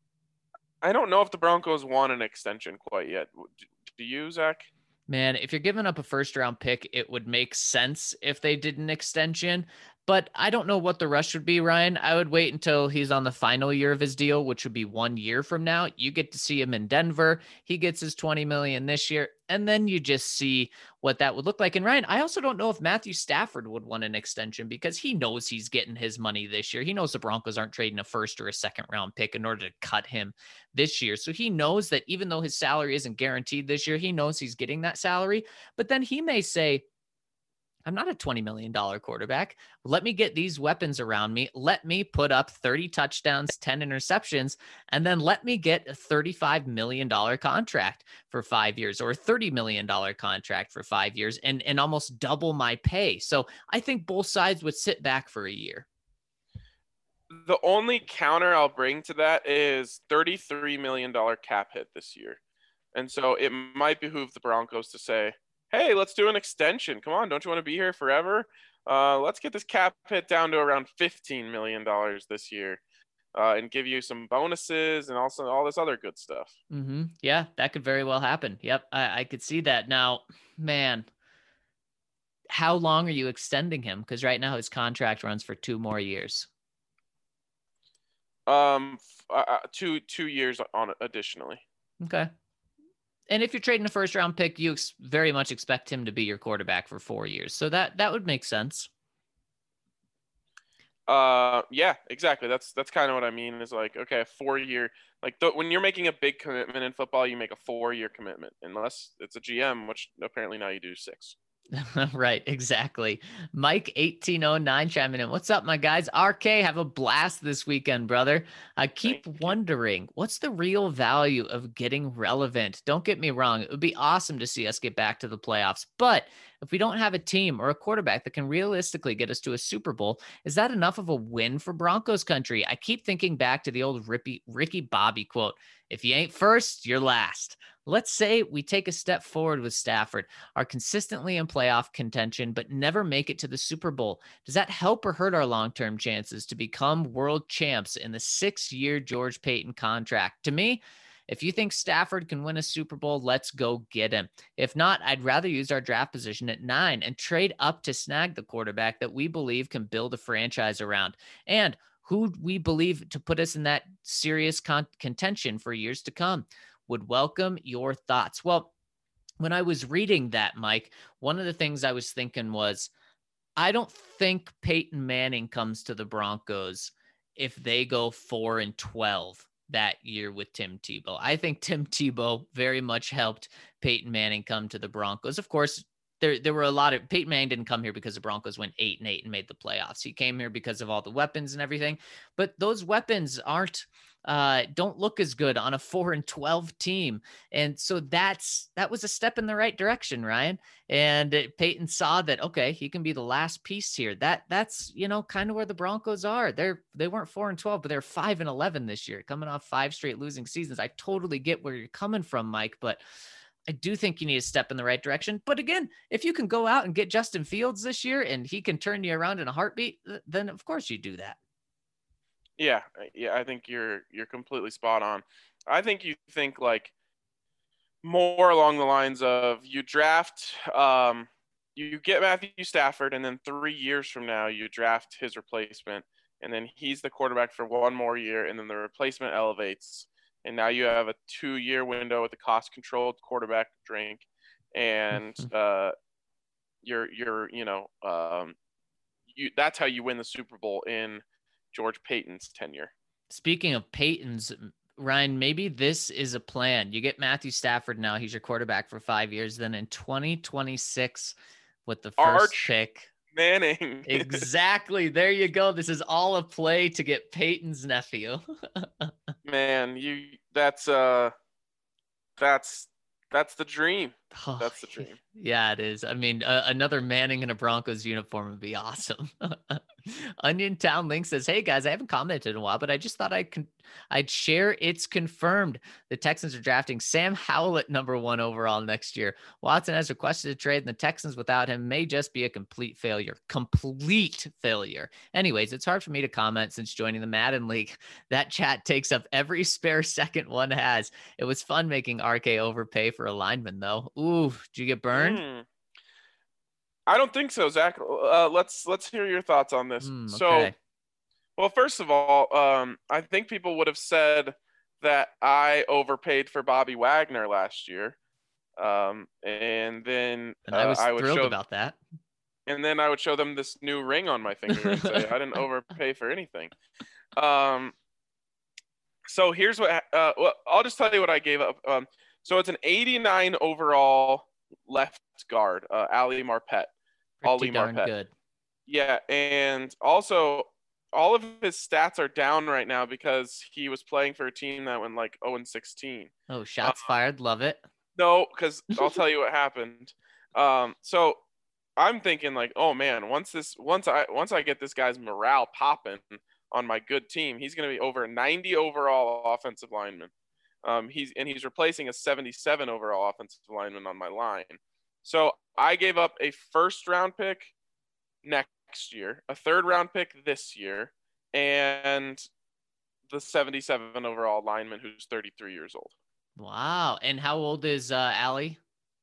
I don't know if the Broncos want an extension quite yet. Do you, Zach? Man, if you're giving up a first round pick, it would make sense if they did an extension, but I don't know what the rush would be, Ryan. I would wait until he's on the final year of his deal, which would be one year from now. You get to see him in Denver. He gets his twenty million dollars this year, and then you just see what that would look like. And Ryan, I also don't know if Matthew Stafford would want an extension because he knows he's getting his money this year. He knows the Broncos aren't trading a first or a second round pick in order to cut him this year. So he knows that even though his salary isn't guaranteed this year, he knows he's getting that salary. But then he may say, I'm not a twenty million dollars quarterback. Let me get these weapons around me. Let me put up thirty touchdowns, ten interceptions, and then let me get a thirty-five million dollars contract for five years or a thirty million dollars contract for five years and, and almost double my pay. So I think both sides would sit back for a year. The only counter I'll bring to that is thirty-three million dollars cap hit this year. And so it might behoove the Broncos to say, hey, let's do an extension. Come on, don't you want to be here forever? Uh, let's get this cap hit down to around fifteen million dollars this year uh, and give you some bonuses and also all this other good stuff. Mm-hmm. Yeah, that could very well happen. Yep, I, I could see that. Now, man, how long are you extending him? Because right now his contract runs for two more years. Um, uh, two two years on it additionally. Okay. And if you're trading a first round pick, you ex- very much expect him to be your quarterback for four years. So that, that would make sense. Uh, yeah, exactly. That's that's kind of what I mean. Is like, okay, a four year, like th- when you're making a big commitment in football, you make a four year commitment, unless it's a G M, which apparently now you do six. Right, exactly. Mike eighteen oh nine chiming in. What's up, my guys? R K, have a blast this weekend, brother. I keep Thank you. wondering what's the real value of getting relevant? Don't get me wrong. It would be awesome to see us get back to the playoffs. But if we don't have a team or a quarterback that can realistically get us to a Super Bowl, is that enough of a win for Broncos country? I keep thinking back to the old Ricky, Ricky Bobby quote: if you ain't first, you're last. Let's say we take a step forward with Stafford, are consistently in playoff contention, but never make it to the Super Bowl. Does that help or hurt our long-term chances to become world champs in the six-year George Payton contract? To me, if you think Stafford can win a Super Bowl, let's go get him. If not, I'd rather use our draft position at nine and trade up to snag the quarterback that we believe can build a franchise around, and who we believe to put us in that serious con- contention for years to come. Would welcome your thoughts. Well, when I was reading that, Mike, one of the things I was thinking was, I don't think Peyton Manning comes to the Broncos if they go four and twelve that year with Tim Tebow. I think Tim Tebow very much helped Peyton Manning come to the Broncos. Of course, there there were a lot of Peyton Manning didn't come here because the Broncos went eight and eight and made the playoffs. He came here because of all the weapons and everything. But those weapons aren't uh, don't look as good on a four and twelve team. And so that's, that was a step in the right direction, Ryan. And it, Peyton saw that, okay, he can be the last piece here. That that's, you know, kind of where the Broncos are. They're, they weren't four and twelve, but they're five and eleven this year, coming off five straight losing seasons. I totally get where you're coming from, Mike, but I do think you need to step in the right direction. But again, if you can go out and get Justin Fields this year and he can turn you around in a heartbeat, then of course you do that. Yeah, yeah, I think you're you're completely spot on. I think you think like more along the lines of you draft, um, you get Matthew Stafford, and then three years from now you draft his replacement, and then he's the quarterback for one more year, and then the replacement elevates, and now you have a two-year window with a cost-controlled quarterback drink, and uh, you're you're you know um, you that's how you win the Super Bowl in George Payton's tenure. Speaking of Payton's, Ryan, maybe this is a plan. You get Matthew Stafford now. He's your quarterback for five years. Then in twenty twenty-six, with the first Arch pick. Manning. Exactly. There you go. This is all a play to get Peyton's nephew. Man, you that's uh that's that's the dream. Oh, That's the dream. Yeah, it is. I mean, uh, another Manning in a Broncos uniform would be awesome. Onion Town Link says, "Hey guys, I haven't commented in a while, but I just thought I can I'd share it's confirmed. The Texans are drafting Sam Howell at number one overall next year. Watson has requested a trade, and the Texans without him may just be a complete failure. Complete failure. Anyways, it's hard for me to comment since joining the Madden League. That chat takes up every spare second one has. It was fun making R K overpay for a lineman, though. Ooh, did you get burned? Mm. I don't think so, Zach. Uh, let's let's hear your thoughts on this. Mm, So, okay. well, first of all, um, I think people would have said that I overpaid for Bobby Wagner last year, um, and then And I was uh, I would thrilled show, about that. and then I would show them this new ring on my finger and say I didn't overpay for anything. Um, so here's what. Uh, well, I'll just tell you what I gave up. Um, so it's an eighty-nine overall left guard, uh, Ali Marpet. Pretty Ali darn Marpet. good. Yeah, and also all of his stats are down right now because he was playing for a team that went like oh and sixteen. Oh, shots Uh, fired. Love it. No, because I'll tell you what happened. Um, so I'm thinking like, oh man, once this, once I, once I get this guy's morale popping on my good team, he's going to be over ninety overall offensive lineman. Um, he's and he's replacing a seventy-seven overall offensive lineman on my line. So I gave up a first round pick next year, a third round pick this year, and the seventy-seven overall lineman who's thirty-three years old. Wow. And how old is uh, Ali?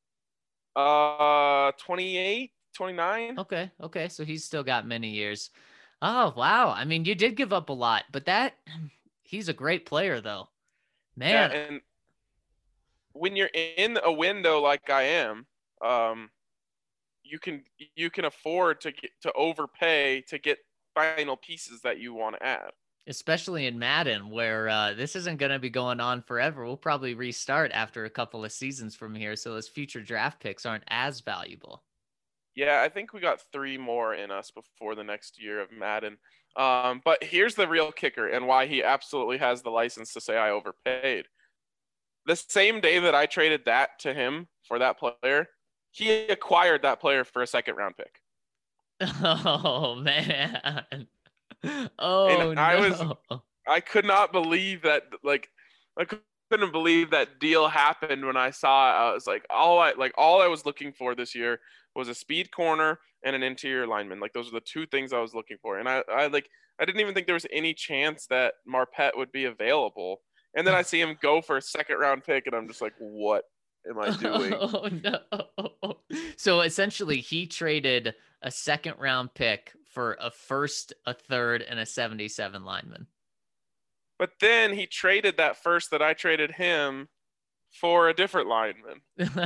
Uh, twenty-eight, twenty-nine. Okay. Okay. So he's still got many years. Oh, wow. I mean, you did give up a lot, but that he's a great player, though. Man. Yeah, and when you're in a window like I am, um, you can you can afford to get to overpay to get final pieces that you want to add. Especially in Madden, where uh, this isn't going to be going on forever. We'll probably restart after a couple of seasons from here, so those future draft picks aren't as valuable. Yeah, I think we got three more in us before the next year of Madden. Um, but here's the real kicker and why he absolutely has the license to say I overpaid. The same day that I traded that to him for that player, he acquired that player for a second round pick. Oh, man. Oh, and I no. was, I could not believe that, like, I couldn't believe that deal happened when I saw it. I was like, all I, like, all I was looking for this year was a speed corner and an interior lineman. Like, those are the two things I was looking for. And I, I like, I didn't even think there was any chance that Marpet would be available. And then I see him go for a second round pick, and I'm just like, what am I doing? Oh, no. So essentially, he traded a second round pick for a first, a third, and a seventy-seven lineman. But then he traded that first that I traded him for a different lineman.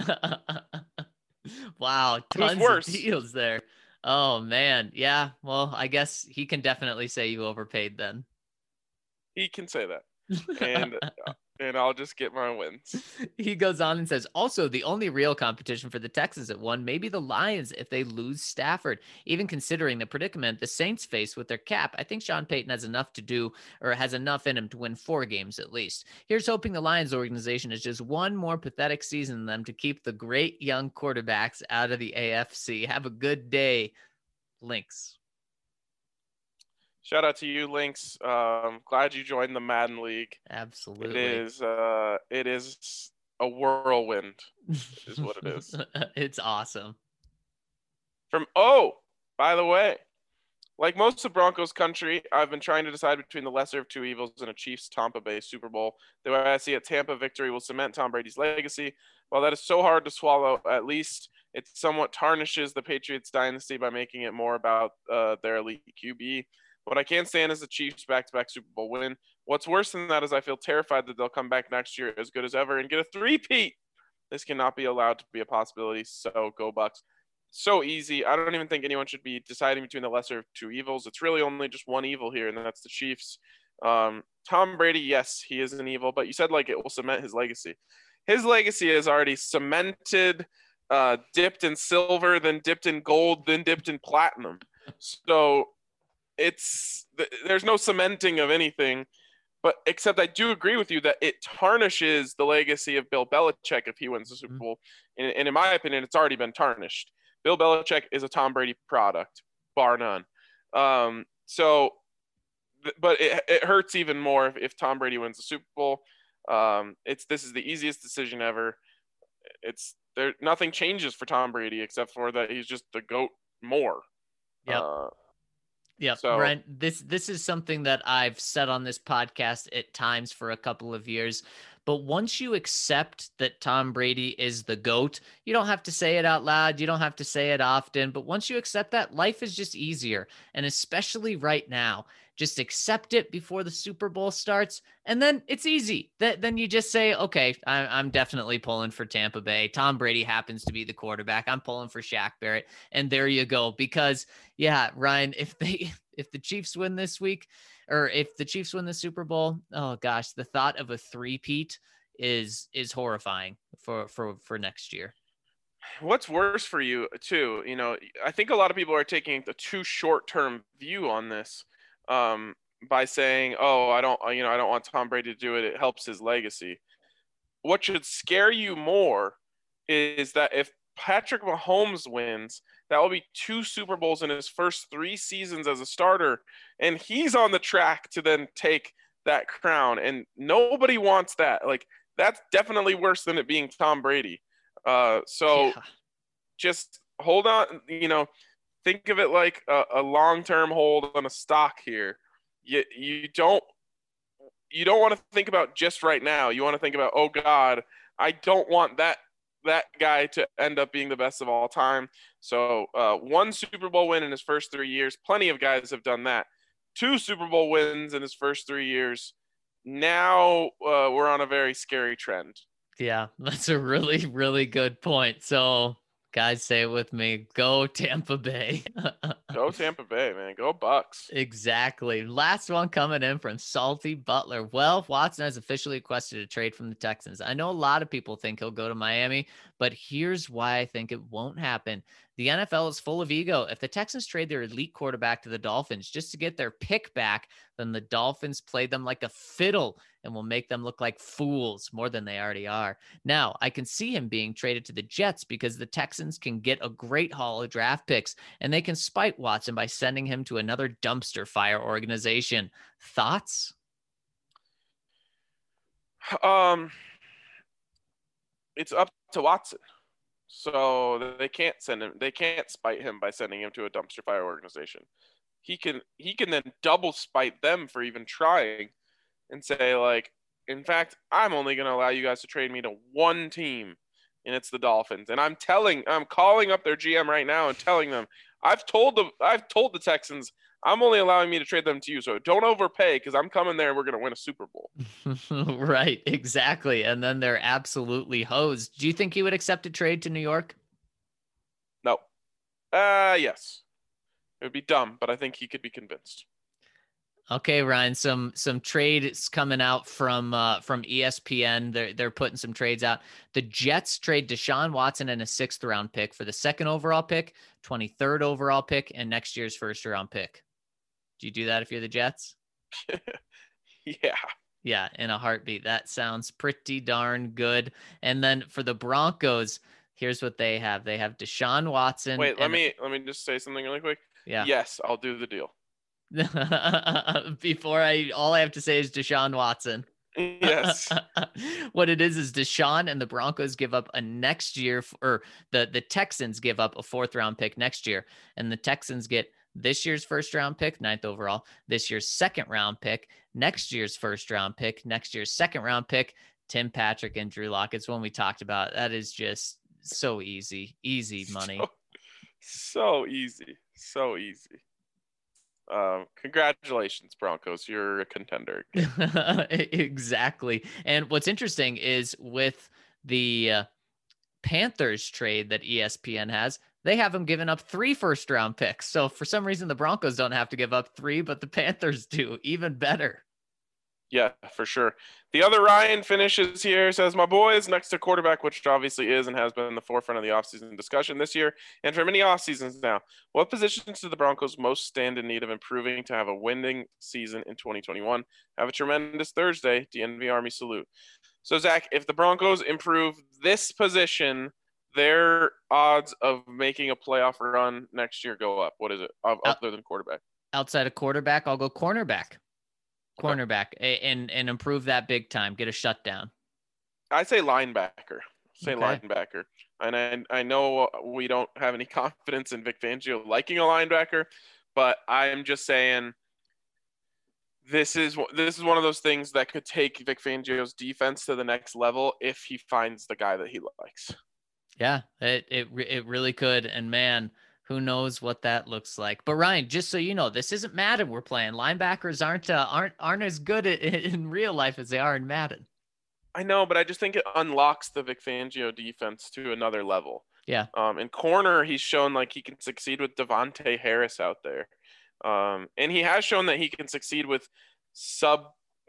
Wow, tons worse. of deals there. Oh, man. Yeah, well, I guess he can definitely say you overpaid then. He can say that. And and I'll just get my wins. He goes on and says, also, the only real competition for the Texans at one may be the Lions if they lose Stafford. Even considering the predicament the Saints face with their cap, I think Sean Payton has enough to do, or has enough in him to win four games at least. Here's hoping the Lions organization is just one more pathetic season than them to keep the great young quarterbacks out of the A F C. Have a good day, Lynx. Shout out to you, Lynx. Um, glad you joined the Madden League. Absolutely. It is uh it is a whirlwind, is what it is. It's awesome. From oh, by the way, like most of Broncos country, I've been trying to decide between the lesser of two evils and a Chiefs Tampa Bay Super Bowl. The way I see it, Tampa victory will cement Tom Brady's legacy. While that is so hard to swallow, at least it somewhat tarnishes the Patriots dynasty by making it more about uh, their elite Q B. What I can't stand is the Chiefs back-to-back Super Bowl win. What's worse than that is I feel terrified that they'll come back next year as good as ever and get a three-peat. This cannot be allowed to be a possibility, so go Bucks. So easy. I don't even think anyone should be deciding between the lesser of two evils. It's really only just one evil here, and that's the Chiefs. Um, Tom Brady, yes, he is an evil, but you said like it will cement his legacy. His legacy is already cemented, uh, dipped in silver, then dipped in gold, then dipped in platinum. So it's there's no cementing of anything, but except I do agree with you that it tarnishes the legacy of Bill Belichick if he wins the Super Bowl. And, and in my opinion, it's already been tarnished. Bill Belichick is a Tom Brady product, bar none. Um, so, but it, it hurts even more if, if Tom Brady wins the Super Bowl. Um, it's this is the easiest decision ever. It's there. Nothing changes for Tom Brady except for that he's just the GOAT more. Yeah. Uh, Yeah, so, Ryan, this this is something that I've said on this podcast at times for a couple of years. But once you accept that Tom Brady is the GOAT, you don't have to say it out loud. You don't have to say it often. But once you accept that, life is just easier. And especially right now, just accept it before the Super Bowl starts. And then it's easy. Th- then you just say, okay, I- I'm definitely pulling for Tampa Bay. Tom Brady happens to be the quarterback. I'm pulling for Shaq Barrett. And there you go. Because, yeah, Ryan, if they if the Chiefs win this week, or if the Chiefs win the Super Bowl, oh gosh, the thought of a three-peat is is horrifying for for for next year. What's worse for you too, you know, I think a lot of people are taking a too short-term view on this um, by saying, oh, I don't, you know, I don't want Tom Brady to do it. It helps his legacy. What should scare you more is that if Patrick Mahomes wins, that will be two Super Bowls in his first three seasons as a starter, and he's on the track to then take that crown, and nobody wants that. Like, that's definitely worse than it being Tom Brady. Uh, so yeah. Just hold on, you know, think of it like a, a long-term hold on a stock here. You, you don't, you don't want to think about just right now. You want to think about, oh God, I don't want that that guy to end up being the best of all time. So uh, one Super Bowl win in his first three years. Plenty of guys have done that. Two Super Bowl wins in his first three years. Now uh, we're on a very scary trend. Yeah, that's a really, really good point. So guys, say it with me. Go Tampa Bay. Go Tampa Bay, man. Go Bucks. Exactly. Last one coming in from Salty Butler. Well, Watson has officially requested a trade from the Texans. I know a lot of people think he'll go to Miami, but here's why I think it won't happen. The N F L is full of ego. If the Texans trade their elite quarterback to the Dolphins just to get their pick back, then the Dolphins play them like a fiddle and will make them look like fools more than they already are. Now, I can see him being traded to the Jets because the Texans can get a great haul of draft picks, and they can spite Watson by sending him to another dumpster fire organization. Thoughts? Um, it's up to Watson. So they can't send him. They can't spite him by sending him to a dumpster fire organization. He can. He can then double spite them for even trying, and say like, in fact, I'm only going to allow you guys to trade me to one team, and it's the Dolphins. And I'm telling, I'm calling up their G M right now and telling them, I've told the, I've told the Texans, I'm only allowing me to trade them to you. So don't overpay because I'm coming there and we're going to win a Super Bowl. Right, exactly. And then they're absolutely hosed. Do you think he would accept a trade to New York? No. Uh, yes. It would be dumb, but I think he could be convinced. Okay, Ryan, some some trades coming out from uh, from E S P N. They're they're putting some trades out. The Jets trade Deshaun Watson and a sixth round pick for the second overall pick, twenty-third overall pick, and next year's first round pick. Do you do that if you're the Jets? Yeah. Yeah, in a heartbeat. That sounds pretty darn good. And then for the Broncos, here's what they have. They have Deshaun Watson. Wait, let and, me let me just say something really quick. Yeah. Yes, I'll do the deal. Before I, all I have to say is Deshaun Watson. Yes. What it is is Deshaun and the Broncos give up a next year, or the the Texans give up a fourth round pick next year, and the Texans get this year's first round pick, ninth overall, this year's second round pick, next year's first round pick, next year's second round pick, Tim Patrick and Drew Lock. It's one we talked about. That is just so easy, easy money. So, so easy, so easy. Um, congratulations, Broncos. You're a contender. Exactly. And what's interesting is with the uh, Panthers trade that E S P N has, they have them giving up three first round picks. So for some reason, the Broncos don't have to give up three, but the Panthers do. Even better. Yeah, for sure. The other Ryan finishes here, says, my boys next to quarterback, which obviously is and has been in the forefront of the offseason discussion this year and for many off seasons now. What positions do the Broncos most stand in need of improving to have a winning season in twenty twenty-one? Have a tremendous Thursday. D N V Army salute. So, Zach, if the Broncos improve this position, their odds of making a playoff run next year go up. What is it? Other than quarterback? Outside of quarterback, I'll go cornerback. Cornerback okay. and and improve that big time. Get a shutdown. I say linebacker. Say okay. linebacker. And I I know we don't have any confidence in Vic Fangio liking a linebacker, but I'm just saying this is this is one of those things that could take Vic Fangio's defense to the next level if he finds the guy that he likes. Yeah, it it it really could. And man, who knows what that looks like. But Ryan, just so you know, this isn't Madden we're playing. Linebackers aren't uh, aren't aren't as good at, in real life as they are in Madden. I know, but I just think it unlocks the Vic Fangio defense to another level. Yeah. Um, in corner, he's shown like he can succeed with Devontae Harris out there. Um, and he has shown that he can succeed with subpar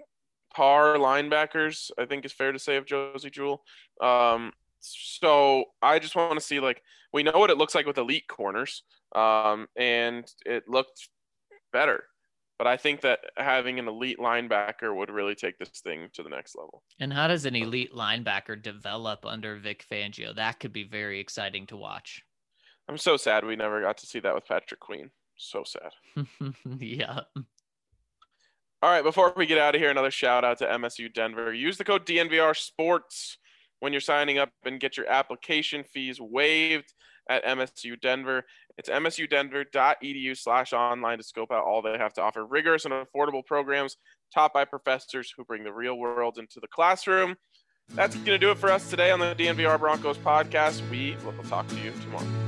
linebackers, I think is fair to say, of Josie Jewell. Um, so I just want to see, like, we know what it looks like with elite corners, um, and it looked better. But I think that having an elite linebacker would really take this thing to the next level. And how does an elite linebacker develop under Vic Fangio? That could be very exciting to watch. I'm so sad we never got to see that with Patrick Queen. So sad. Yeah. All right, before we get out of here, another shout out to M S U Denver. Use the code D N V R Sports when you're signing up and get your application fees waived at M S U Denver. It's msudenver.edu slash online to scope out all they have to offer. Rigorous and affordable programs taught by professors who bring the real world into the classroom. That's going to do it for us today on the D N V R Broncos podcast. We will talk to you tomorrow.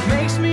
makes me